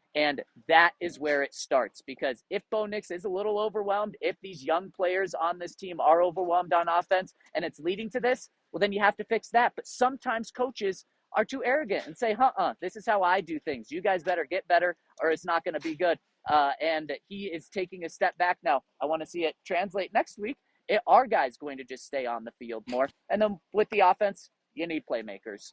And that is where it starts, because if Bo Nix is a little overwhelmed, if these young players on this team are overwhelmed on offense and it's leading to this, well, then you have to fix that. But sometimes coaches are too arrogant and say, this is how I do things. You guys better get better or it's not going to be good. And he is taking a step back now. I want to see it translate next week. Are guys going to just stay on the field more? And then with the offense, you need playmakers.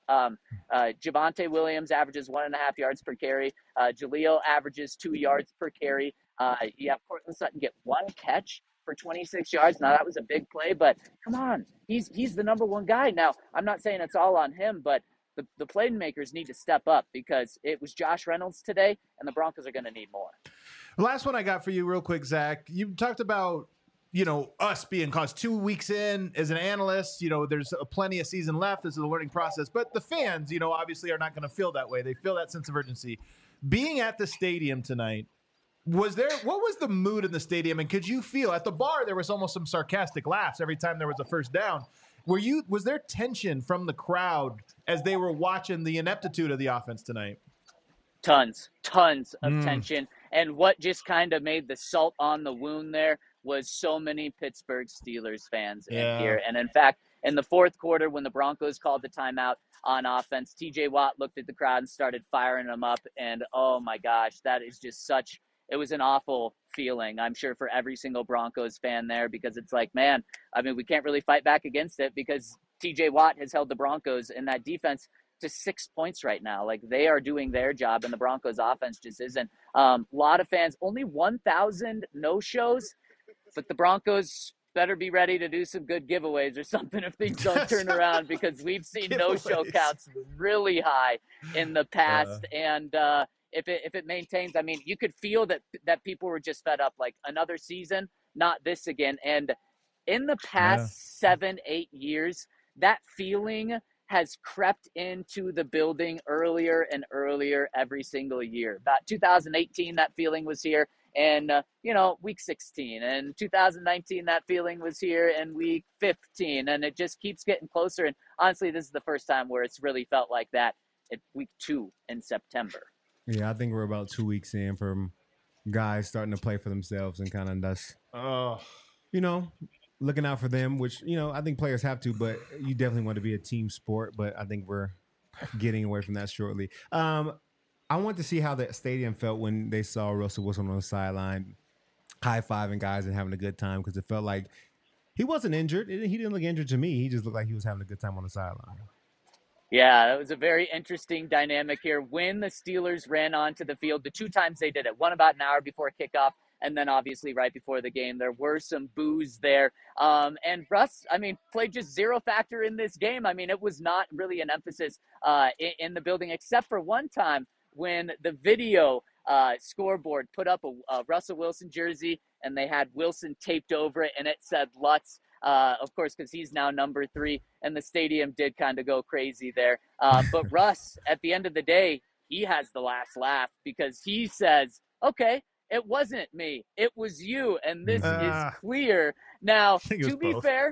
Javonte Williams averages 1.5 yards per carry. Jaleel averages 2 yards per carry. You have Cortland Sutton get 1 catch for 26 yards. Now, that was a big play, but come on. He's the number one guy. Now, I'm not saying it's all on him, but the playmakers need to step up, because it was Josh Reynolds today, and the Broncos are going to need more. The last one I got for you real quick, Zach. You talked about, us being caused 2 weeks in as an analyst. There's plenty of season left. This is a learning process. But the fans, obviously are not going to feel that way. They feel that sense of urgency. Being at the stadium tonight, what was the mood in the stadium? And could you feel at the bar there was almost some sarcastic laughs every time there was a first down? Was there tension from the crowd as they were watching the ineptitude of the offense tonight? Tons of tension. And what just kind of made the salt on the wound there was so many Pittsburgh Steelers fans in here. And in fact, in the fourth quarter, when the Broncos called the timeout on offense, TJ Watt looked at the crowd and started firing them up. And oh my gosh, that is just it was an awful feeling, I'm sure, for every single Broncos fan there, because it's like, man, we can't really fight back against it, because TJ Watt has held the Broncos in that defense to 6 points right now. Like, they are doing their job, and the Broncos offense just isn't. A lot of fans, only 1,000 no-shows, but the Broncos better be ready to do some good giveaways or something if things don't turn around, because we've seen no-show counts really high in the past. And if it maintains, you could feel that people were just fed up, like, another season, not this again. And in the past 7-8 years, that feeling has crept into the building earlier and earlier every single year. About 2018, that feeling was here in, week 16. And 2019, that feeling was here in week 15. And it just keeps getting closer. And honestly, this is the first time where it's really felt like that at week 2 in September. Yeah, I think we're about 2 weeks in from guys starting to play for themselves and kind of thus, looking out for them, which, I think players have to, but you definitely want to be a team sport. But I think we're getting away from that shortly. I want to see how the stadium felt when they saw Russell Wilson on the sideline, high-fiving guys and having a good time, because it felt like he wasn't injured. He didn't look injured to me. He just looked like he was having a good time on the sideline. Yeah, it was a very interesting dynamic here. When the Steelers ran onto the field, the 2 times they did it, one about an hour before kickoff, and then obviously right before the game, there were some boos there. And Russ, played just zero factor in this game. It was not really an emphasis in the building, except for one time when the video scoreboard put up a Russell Wilson jersey, and they had Wilson taped over it, and it said Lutz. Of course, because he's now number 3, and the stadium did kind of go crazy there. But Russ, at the end of the day, he has the last laugh, because he says, okay, it wasn't me, it was you, and this is clear. Now, to be fair,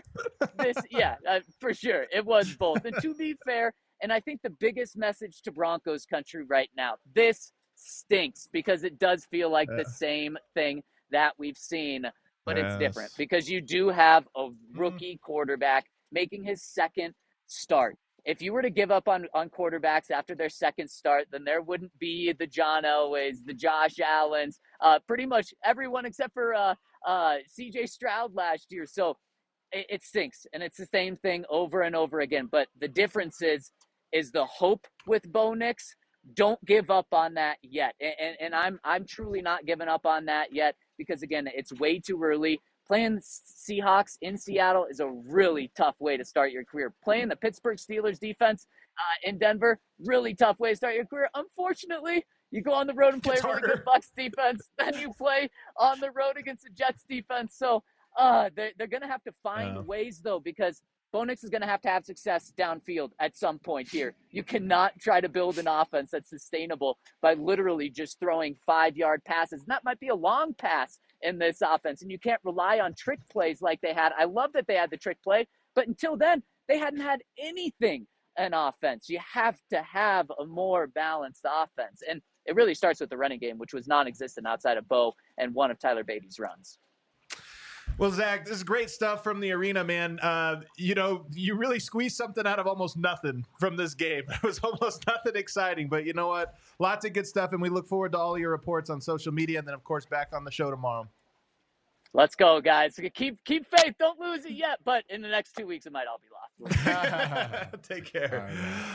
for sure, it was both. And to be fair, and I think the biggest message to Broncos country right now, this stinks, because it does feel like the same thing that we've seen. But it's different, because you do have a rookie quarterback making his second start. If you were to give up on quarterbacks after their second start, then there wouldn't be the John Elways, the Josh Allens, pretty much everyone except for C.J. Stroud last year. So it stinks, and it's the same thing over and over again. But the difference is the hope with Bo Nix. Don't give up on that yet. And I'm truly not giving up on that yet, because, again, it's way too early. Playing Seahawks in Seattle is a really tough way to start your career. Playing the Pittsburgh Steelers defense in Denver, really tough way to start your career. Unfortunately, you go on the road and play a really good Bucs defense, then you play on the road against the Jets defense. So they're going to have to find ways, though, because Bo Nix is going to have success downfield at some point here. You cannot try to build an offense that's sustainable by literally just throwing 5-yard passes. And that might be a long pass in this offense, and you can't rely on trick plays like they had. I love that they had the trick play, but until then, they hadn't had anything an offense. You have to have a more balanced offense. And it really starts with the running game, which was non-existent outside of Bo and one of Tyler Beatty's runs. Well, Zach, this is great stuff from the arena, man. You really squeezed something out of almost nothing from this game. It was almost nothing exciting, but you know what? Lots of good stuff, and we look forward to all your reports on social media, and then, of course, back on the show tomorrow. Let's go, guys. Keep faith. Don't lose it yet, but in the next 2 weeks, it might all be lost. Take care.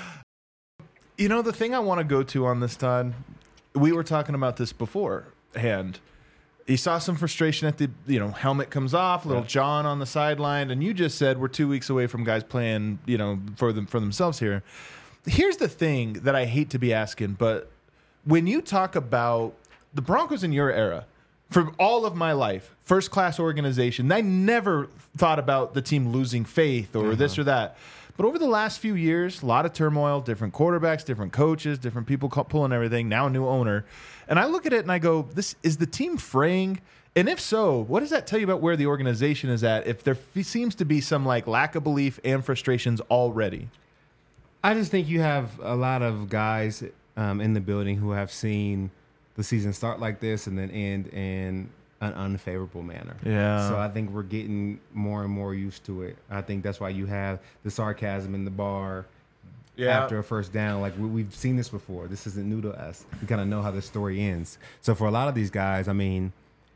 Right, the thing I want to go to on this, Todd, we were talking about this beforehand. You saw some frustration at the, helmet comes off, little John on the sideline, and you just said we're 2 weeks away from guys playing, for themselves here. Here's the thing that I hate to be asking, but when you talk about the Broncos in your era, for all of my life, first-class organization, I never thought about the team losing faith or this or that. But over the last few years, a lot of turmoil, different quarterbacks, different coaches, different people pulling everything, now a new owner. And I look at it and I go, this is the team fraying? And if so, what does that tell you about where the organization is at if there seems to be some lack of belief and frustrations already? I just think you have a lot of guys in the building who have seen the season start like this and then end in an unfavorable manner. Yeah. So I think we're getting more and more used to it. I think that's why you have the sarcasm in the bar after a first down. Like we've seen this before. This isn't new to us. We kind of know how the story ends. So for a lot of these guys, I mean,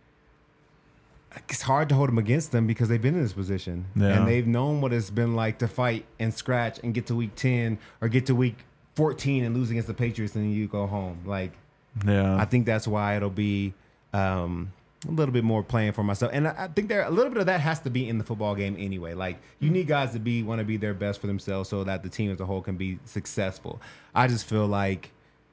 it's hard to hold them against them because they've been in this position. Yeah. And they've known what it's been like to fight and scratch and get to week 10 or get to week 14 and lose against the Patriots and then you go home. I think that's why it'll be a little bit more playing for myself. And I think a little bit of that has to be in the football game anyway. You need guys to want to be their best for themselves so that the team as a whole can be successful. I just feel like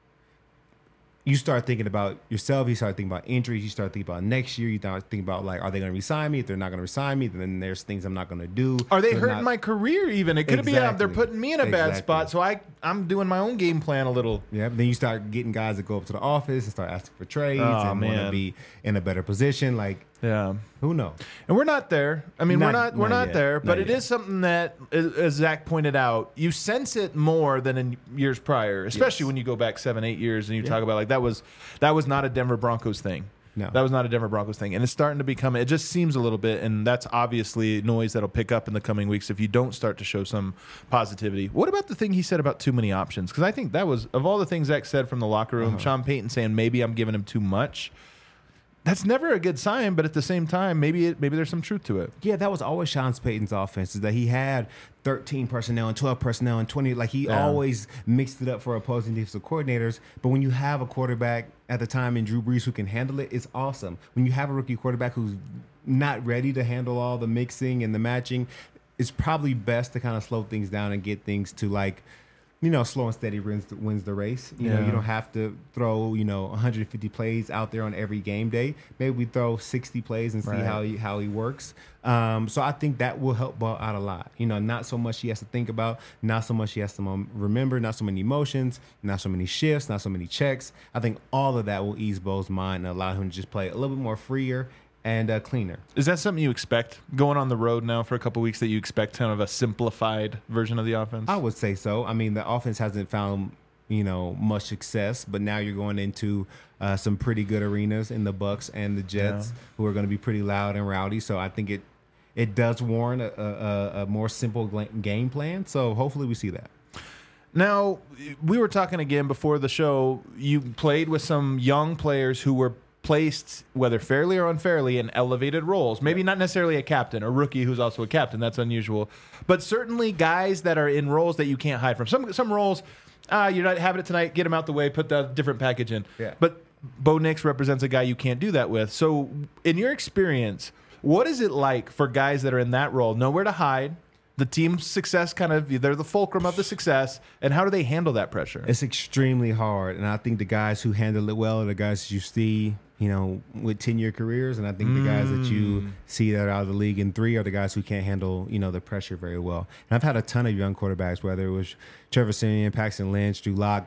you start thinking about yourself, you start thinking about injuries, you start thinking about next year, you start thinking about are they going to resign me? If they're not going to resign me, then there's things I'm not going to do. Are they hurting my career even? It could be they're putting me in a bad spot, so I'm doing my own game plan a little. Yeah, but then you start getting guys that go up to the office and start asking for trades and want to be in a better position. Who knows? And we're not there. I mean, we're not there, but it is something that, as Zach pointed out, you sense it more than in years prior, especially when you go back 7-8 years and you talk about that was not a Denver Broncos thing. No. That was not a Denver Broncos thing. And it's starting to become, it just seems a little bit, and that's obviously noise that'll pick up in the coming weeks if you don't start to show some positivity. What about the thing he said about too many options? Because I think that was, of all the things Zach said from the locker room, Sean Payton saying maybe I'm giving him too much. That's never a good sign, but at the same time, maybe there's some truth to it. Yeah, that was always Sean Payton's offense, is that he had 13 personnel and 12 personnel and 20. He always mixed it up for opposing defensive coordinators. But when you have a quarterback at the time in Drew Brees who can handle it, it's awesome. When you have a rookie quarterback who's not ready to handle all the mixing and the matching, it's probably best to kind of slow things down and get things to slow and steady wins the race. You know, you don't have to throw, 150 plays out there on every game day. Maybe we throw 60 plays and see how he works. So I think that will help Ball out a lot. Not so much he has to think about, not so much he has to remember, not so many emotions, not so many shifts, not so many checks. I think all of that will ease Bo's mind and allow him to just play a little bit more freer and cleaner. Is that something you expect going on the road now for a couple of weeks, that you expect kind of a simplified version of the offense? I would say so. I mean, the offense hasn't found, much success, but now you're going into some pretty good arenas in the Bucs and the Jets, who are going to be pretty loud and rowdy. So I think it does warrant a more simple game plan. So hopefully we see that. Now, we were talking again before the show. You played with some young players who were placed, whether fairly or unfairly, in elevated roles. Maybe not necessarily a captain, a rookie who's also a captain. That's unusual. But certainly guys that are in roles that you can't hide from. Some roles, you're not having it tonight, get them out the way, put the different package in. Yeah. But Bo Nix represents a guy you can't do that with. So in your experience, what is it like for guys that are in that role, nowhere to hide, the team's success they're the fulcrum of the success, and how do they handle that pressure? It's extremely hard, and I think the guys who handle it well are the guys that you see, with 10-year careers, and I think the guys that you see that are out of the league in 3 are the guys who can't handle, the pressure very well. And I've had a ton of young quarterbacks, whether it was Trevor Siemian, Paxton Lynch, Drew Lock,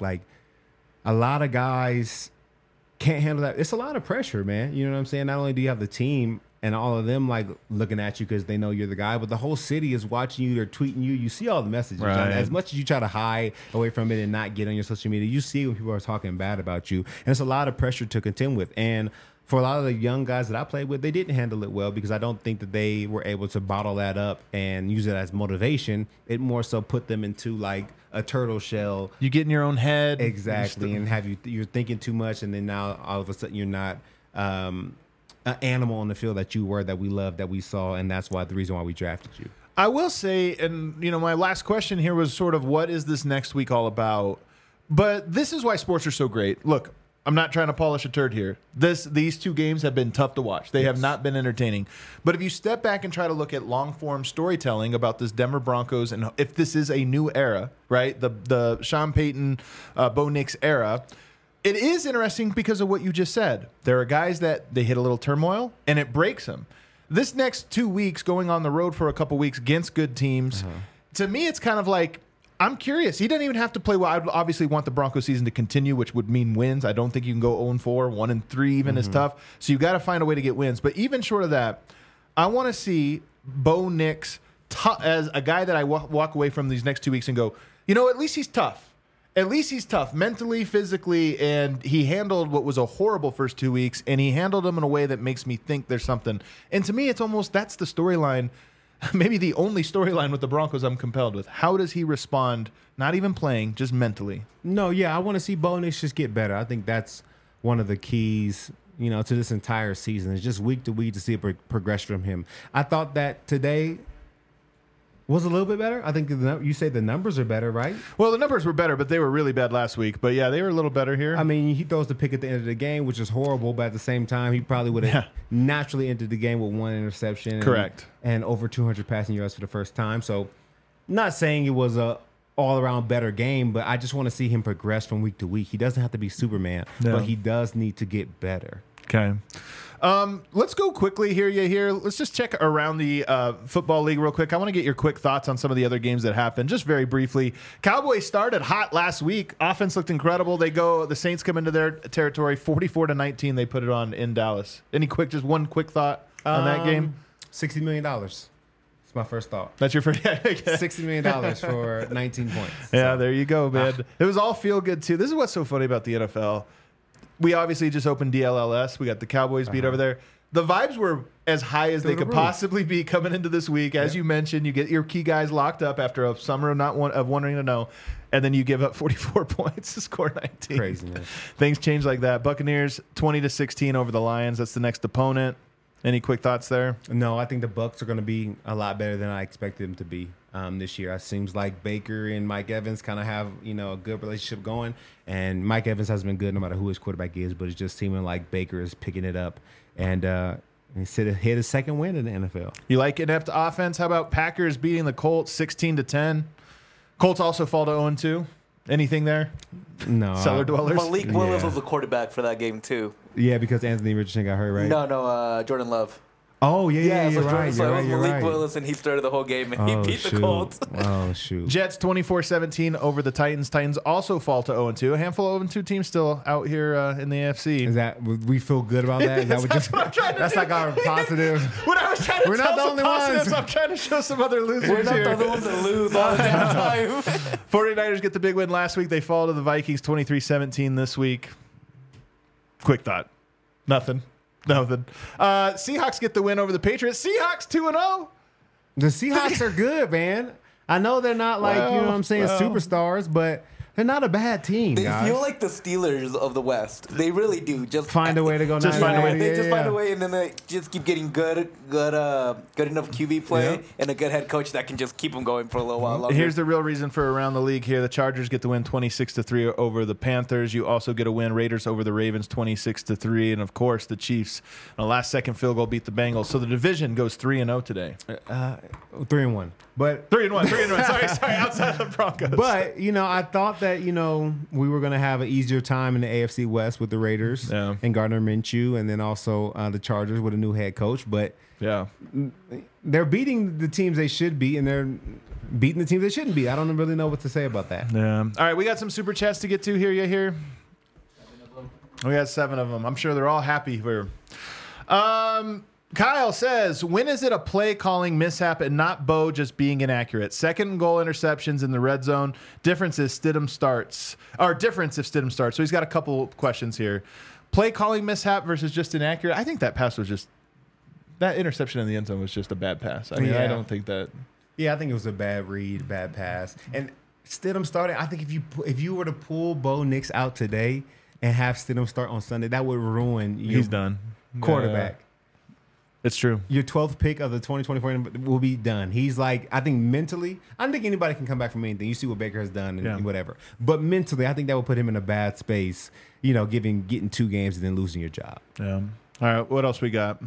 a lot of guys can't handle that. It's a lot of pressure, man. You know what I'm saying? Not only do you have the team and all of them like looking at you because they know you're the guy. But the whole city is watching you. They're tweeting you. You see all the messages. Right. As much as you try to hide away from it and not get on your social media, you see when people are talking bad about you. And it's a lot of pressure to contend with. And for a lot of the young guys that I played with, they didn't handle it well because I don't think that they were able to bottle that up and use it as motivation. It more so put them into like a turtle shell. You get in your own head. Exactly. And you're thinking too much. And then now all of a sudden you're not an animal on the field that you were, that we loved, that we saw. And that's the reason why we drafted you. I will say, and my last question here was sort of what is this next week all about? But this is why sports are so great. Look, I'm not trying to polish a turd here. These two games have been tough to watch. They have not been entertaining. But if you step back and try to look at long-form storytelling about this Denver Broncos, and if this is a new era, right, the Sean Payton, Bo Nix era, it is interesting because of what you just said. There are guys that they hit a little turmoil, and it breaks them. This next 2 weeks, going on the road for a couple weeks against good teams, to me, it's kind of like, I'm curious. He doesn't even have to play well. I'd obviously want the Broncos season to continue, which would mean wins. I don't think you can go 0-4, 1-3 even is tough. So you got to find a way to get wins. But even short of that, I want to see Bo Nix as a guy that I walk away from these next 2 weeks and go, at least he's tough. At least he's tough mentally, physically, and he handled what was a horrible first 2 weeks, and he handled them in a way that makes me think there's something. And to me, it's almost that's the storyline. Maybe the only storyline with the Broncos I'm compelled with. How does he respond, not even playing, just mentally? No, yeah, I want to see Bo Nix just get better. I think that's one of the keys, to this entire season. It's just week to week to see a progression from him. I thought that today was a little bit better. I think you say the numbers are better, right? Well, the numbers were better, but they were really bad last week. But yeah, they were a little better here. I mean, he throws the pick at the end of the game, which is horrible. But at the same time, he probably would have naturally entered the game with one interception. Correct. And over 200 passing yards for the first time. So, not saying it was a all-around better game, but I just want to see him progress from week to week. He doesn't have to be Superman, but he does need to get better. Okay. Let's go quickly here. Let's just check around the football league real quick. I want to get your quick thoughts on some of the other games that happened, just very briefly. Cowboys started hot last week. Offense looked incredible. The Saints come into their territory, 44-19. They put it on in Dallas. Just one quick thought on that game? $60 million. That's my first thought. That's your first. $60 million for 19 points. Yeah, there you go, man. It was all feel good too. This is what's so funny about the NFL. We obviously just opened DLLS. We got the Cowboys beat over there. The vibes were as high as they could possibly be coming into this week. As you mentioned, you get your key guys locked up after a summer of wondering to know, and then you give up 44 points to score 19. Craziness. Things change like that. Buccaneers 20-16 over the Lions. That's the next opponent. Any quick thoughts there? No, I think the Bucs are going to be a lot better than I expected them to be this year. It seems like Baker and Mike Evans kind of have a good relationship going, and Mike Evans has been good no matter who his quarterback is, but it's just seeming like Baker is picking it up and hit his second win in the NFL. You like inept offense? How about Packers beating the Colts 16-10? Colts also fall to 0-2. Anything there? No. Cellar dwellers? Malik Willis was the quarterback for that game, too. Yeah, because Anthony Richardson got hurt, right? No, Jordan Love. Oh, yeah, so you're right. So it was Malik Willis, and he started the whole game, and he beat the Colts. Oh, shoot. Jets 24-17 over the Titans. Titans also fall to 0-2. A handful of 0-2 teams still out here in the AFC. Is that we feel good about that? Is that what that's like our positive. When I was trying to tell some positives, I'm trying to show some other losers We're not here. the other ones that lose all the damn time. 49ers get the big win last week. They fall to the Vikings 23-17 this week. Quick thought. Nothing. Seahawks get the win over the Patriots. Seahawks 2-0. The Seahawks are good, man. I know they're not like, superstars, but they're not a bad team, They guys. feel like the Steelers of the West. They really do. Just find a way to go. Just find a way. They just find a way, and then they just keep getting good enough QB play and a good head coach that can just keep them going for a little while longer. Here's the real reason for around the league here. The Chargers get the win 26-3 over the Panthers. You also get a win. Raiders over the Ravens 26-3, and of course the Chiefs on a last-second field goal beat the Bengals. So the division goes 3-0 today. 3-1, but 3-1. Sorry, outside the Broncos. But I thought that we were going to have an easier time in the AFC West with the Raiders and Gardner Minshew, and then also the Chargers with a new head coach. But they're beating the teams they should beat, and they're beating the teams they shouldn't beat. I don't really know what to say about that. Yeah. All right, we got some super chats to get to here. You here? 7 of them. We got 7 of them. I'm sure they're all happy. Kyle says, when is it a play calling mishap and not Bo just being inaccurate? Second goal interceptions in the red zone. Difference if Stidham starts. So he's got a couple questions here. Play calling mishap versus just inaccurate. I think that pass was just, that interception in the end zone was just a bad pass. I mean, I don't think that. Yeah, I think it was a bad read, bad pass. And Stidham started. I think if you were to pull Bo Nix out today and have Stidham start on Sunday, that would ruin your He's done. quarterback. It's true. Your 12th pick of the 2024 will be done. He's like, I think mentally, I don't think anybody can come back from anything. You see what Baker has done and whatever. But mentally, I think that will put him in a bad space, getting 2 games and then losing your job. Yeah. All right, what else we got?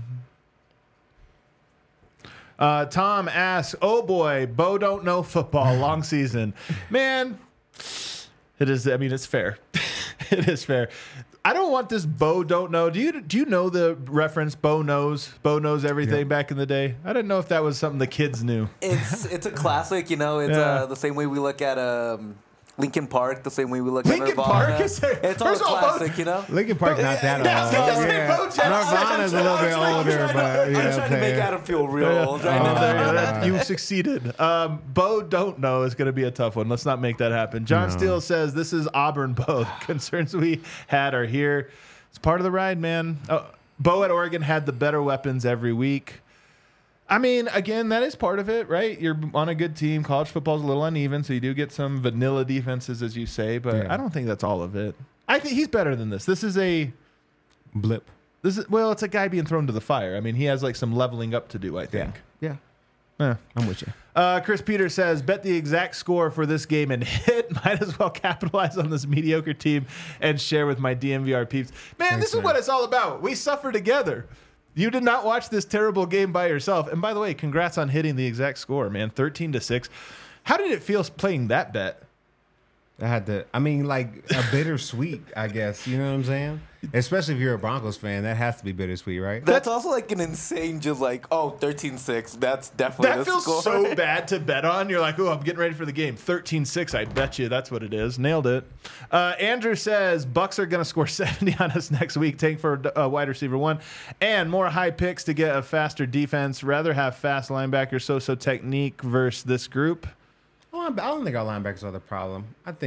Tom asks, oh boy, Bo don't know football, long season. Man, it is, I mean, it's fair. It is fair. I don't want this Bo don't know. Do you know the reference Bo knows? Bo knows everything back in the day. I didn't know if that was something the kids knew. It's a classic, It's the same way we look at Linkin Park, the same way we look at Nirvana. Park? It's all classic, Linkin Park not that old. Nirvana's a little bit older, but I'm trying to make Adam feel real old right now. You succeeded. Bo don't know is going to be a tough one. Let's not make that happen. John Steele says, this is Auburn Bo. Concerns we had are here. It's part of the ride, man. Bo at Oregon had the better weapons every week. I mean, again, that is part of it, right? You're on a good team. College football is a little uneven, so you do get some vanilla defenses, as you say, but I don't think that's all of it. I think he's better than this. This is a blip. It's a guy being thrown to the fire. I mean, he has like some leveling up to do, I think. Yeah. I'm with you. Chris Peters says, bet the exact score for this game and hit. Might as well capitalize on this mediocre team and share with my DMVR peeps. Man, this is what it's all about. We suffer together. You did not watch this terrible game by yourself. And by the way, congrats on hitting the exact score, man. 13-6. How did it feel playing that bet? Like a bittersweet, I guess. You know what I'm saying? Especially if you're a Broncos fan, that has to be bittersweet, right? That's also like an insane, just like, 13-6. That's definitely that feels score. So bad to bet on. You're like, oh, I'm getting ready for the game. 13-6, I bet you that's what it is. Nailed it. Andrew says, Bucks are going to score 70 on us next week. Tank for wide receiver 1. And more high picks to get a faster defense. Rather have fast linebackers, so technique versus this group. Well, I don't think our linebackers are the problem.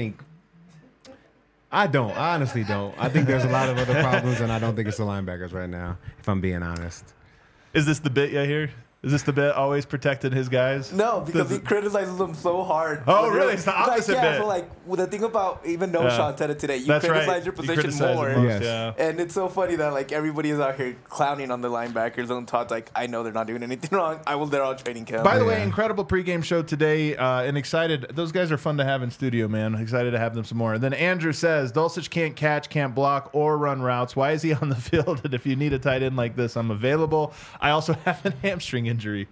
I honestly don't. I think there's a lot of other problems, and I don't think it's the linebackers right now, if I'm being honest. Is this the bit you hear? Is this the bit always protecting his guys? No, because he criticizes them so hard. Oh, really? It's the opposite bit. So the thing about even Sean said it today, you criticize your position more. Yes. Yeah. And it's so funny that everybody is out here clowning on the linebackers, and Todd's like, I know they're not doing anything wrong. They're all training camp. By the way, incredible pregame show today, and excited. Those guys are fun to have in studio, man. Excited to have them some more. And then Andrew says, Dulcich can't catch, can't block, or run routes. Why is he on the field? And if you need a tight end like this, I'm available. I also have a hamstring injury.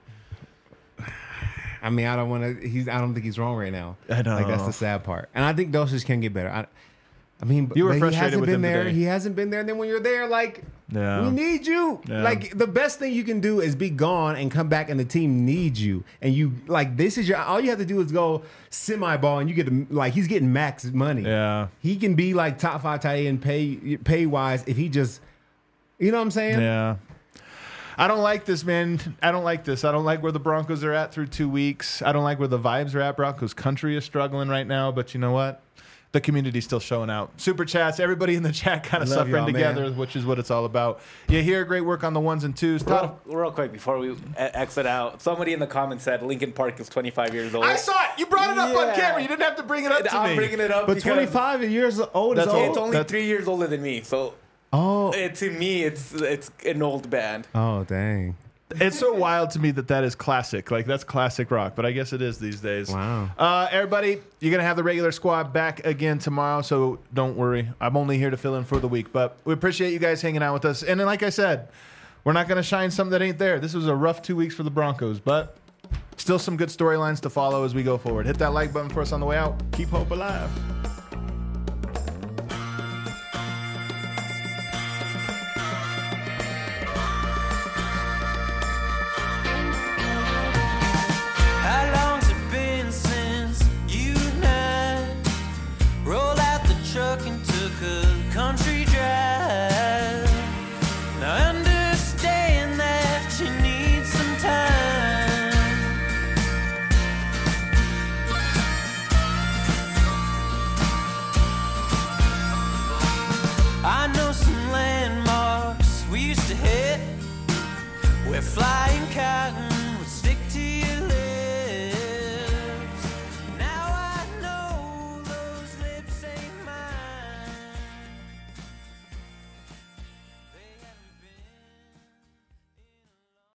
I mean, I don't think he's wrong right now. I know. That's the sad part. And I think Dulcich can get better. You were frustrated he hasn't with been him there. today. He hasn't been there. And then when you're there, we need you. Yeah. The best thing you can do is be gone and come back, and the team needs you. And you this is all you have to do is go semi-ball, and you get he's getting max money. Yeah, he can be top 5 tight end pay wise if he just, you know what I'm saying? Yeah. I don't like this, man. I don't like this. I don't like where the Broncos are at through 2 weeks. I don't like where the vibes are at. Broncos country is struggling right now, but you know what? The community's still showing out. Super chats, everybody in the chat kind of suffering together, man. Which is what it's all about. You hear great work on the 1s and 2s. Real quick, before we exit out, somebody in the comments said Linkin Park is 25 years old. I saw it. You brought it up on camera. You didn't have to bring it up to me. I'm bringing it up but 25 years old is old. It's only 3 years older than me, so... Oh. To me, it's an old band. Oh, dang. It's so wild to me that is classic. That's classic rock, but I guess it is these days. Wow. Everybody, you're going to have the regular squad back again tomorrow, so don't worry. I'm only here to fill in for the week, but we appreciate you guys hanging out with us. And then, like I said, we're not going to shine something that ain't there. This was a rough 2 weeks for the Broncos, but still some good storylines to follow as we go forward. Hit that like button for us on the way out. Keep hope alive. Country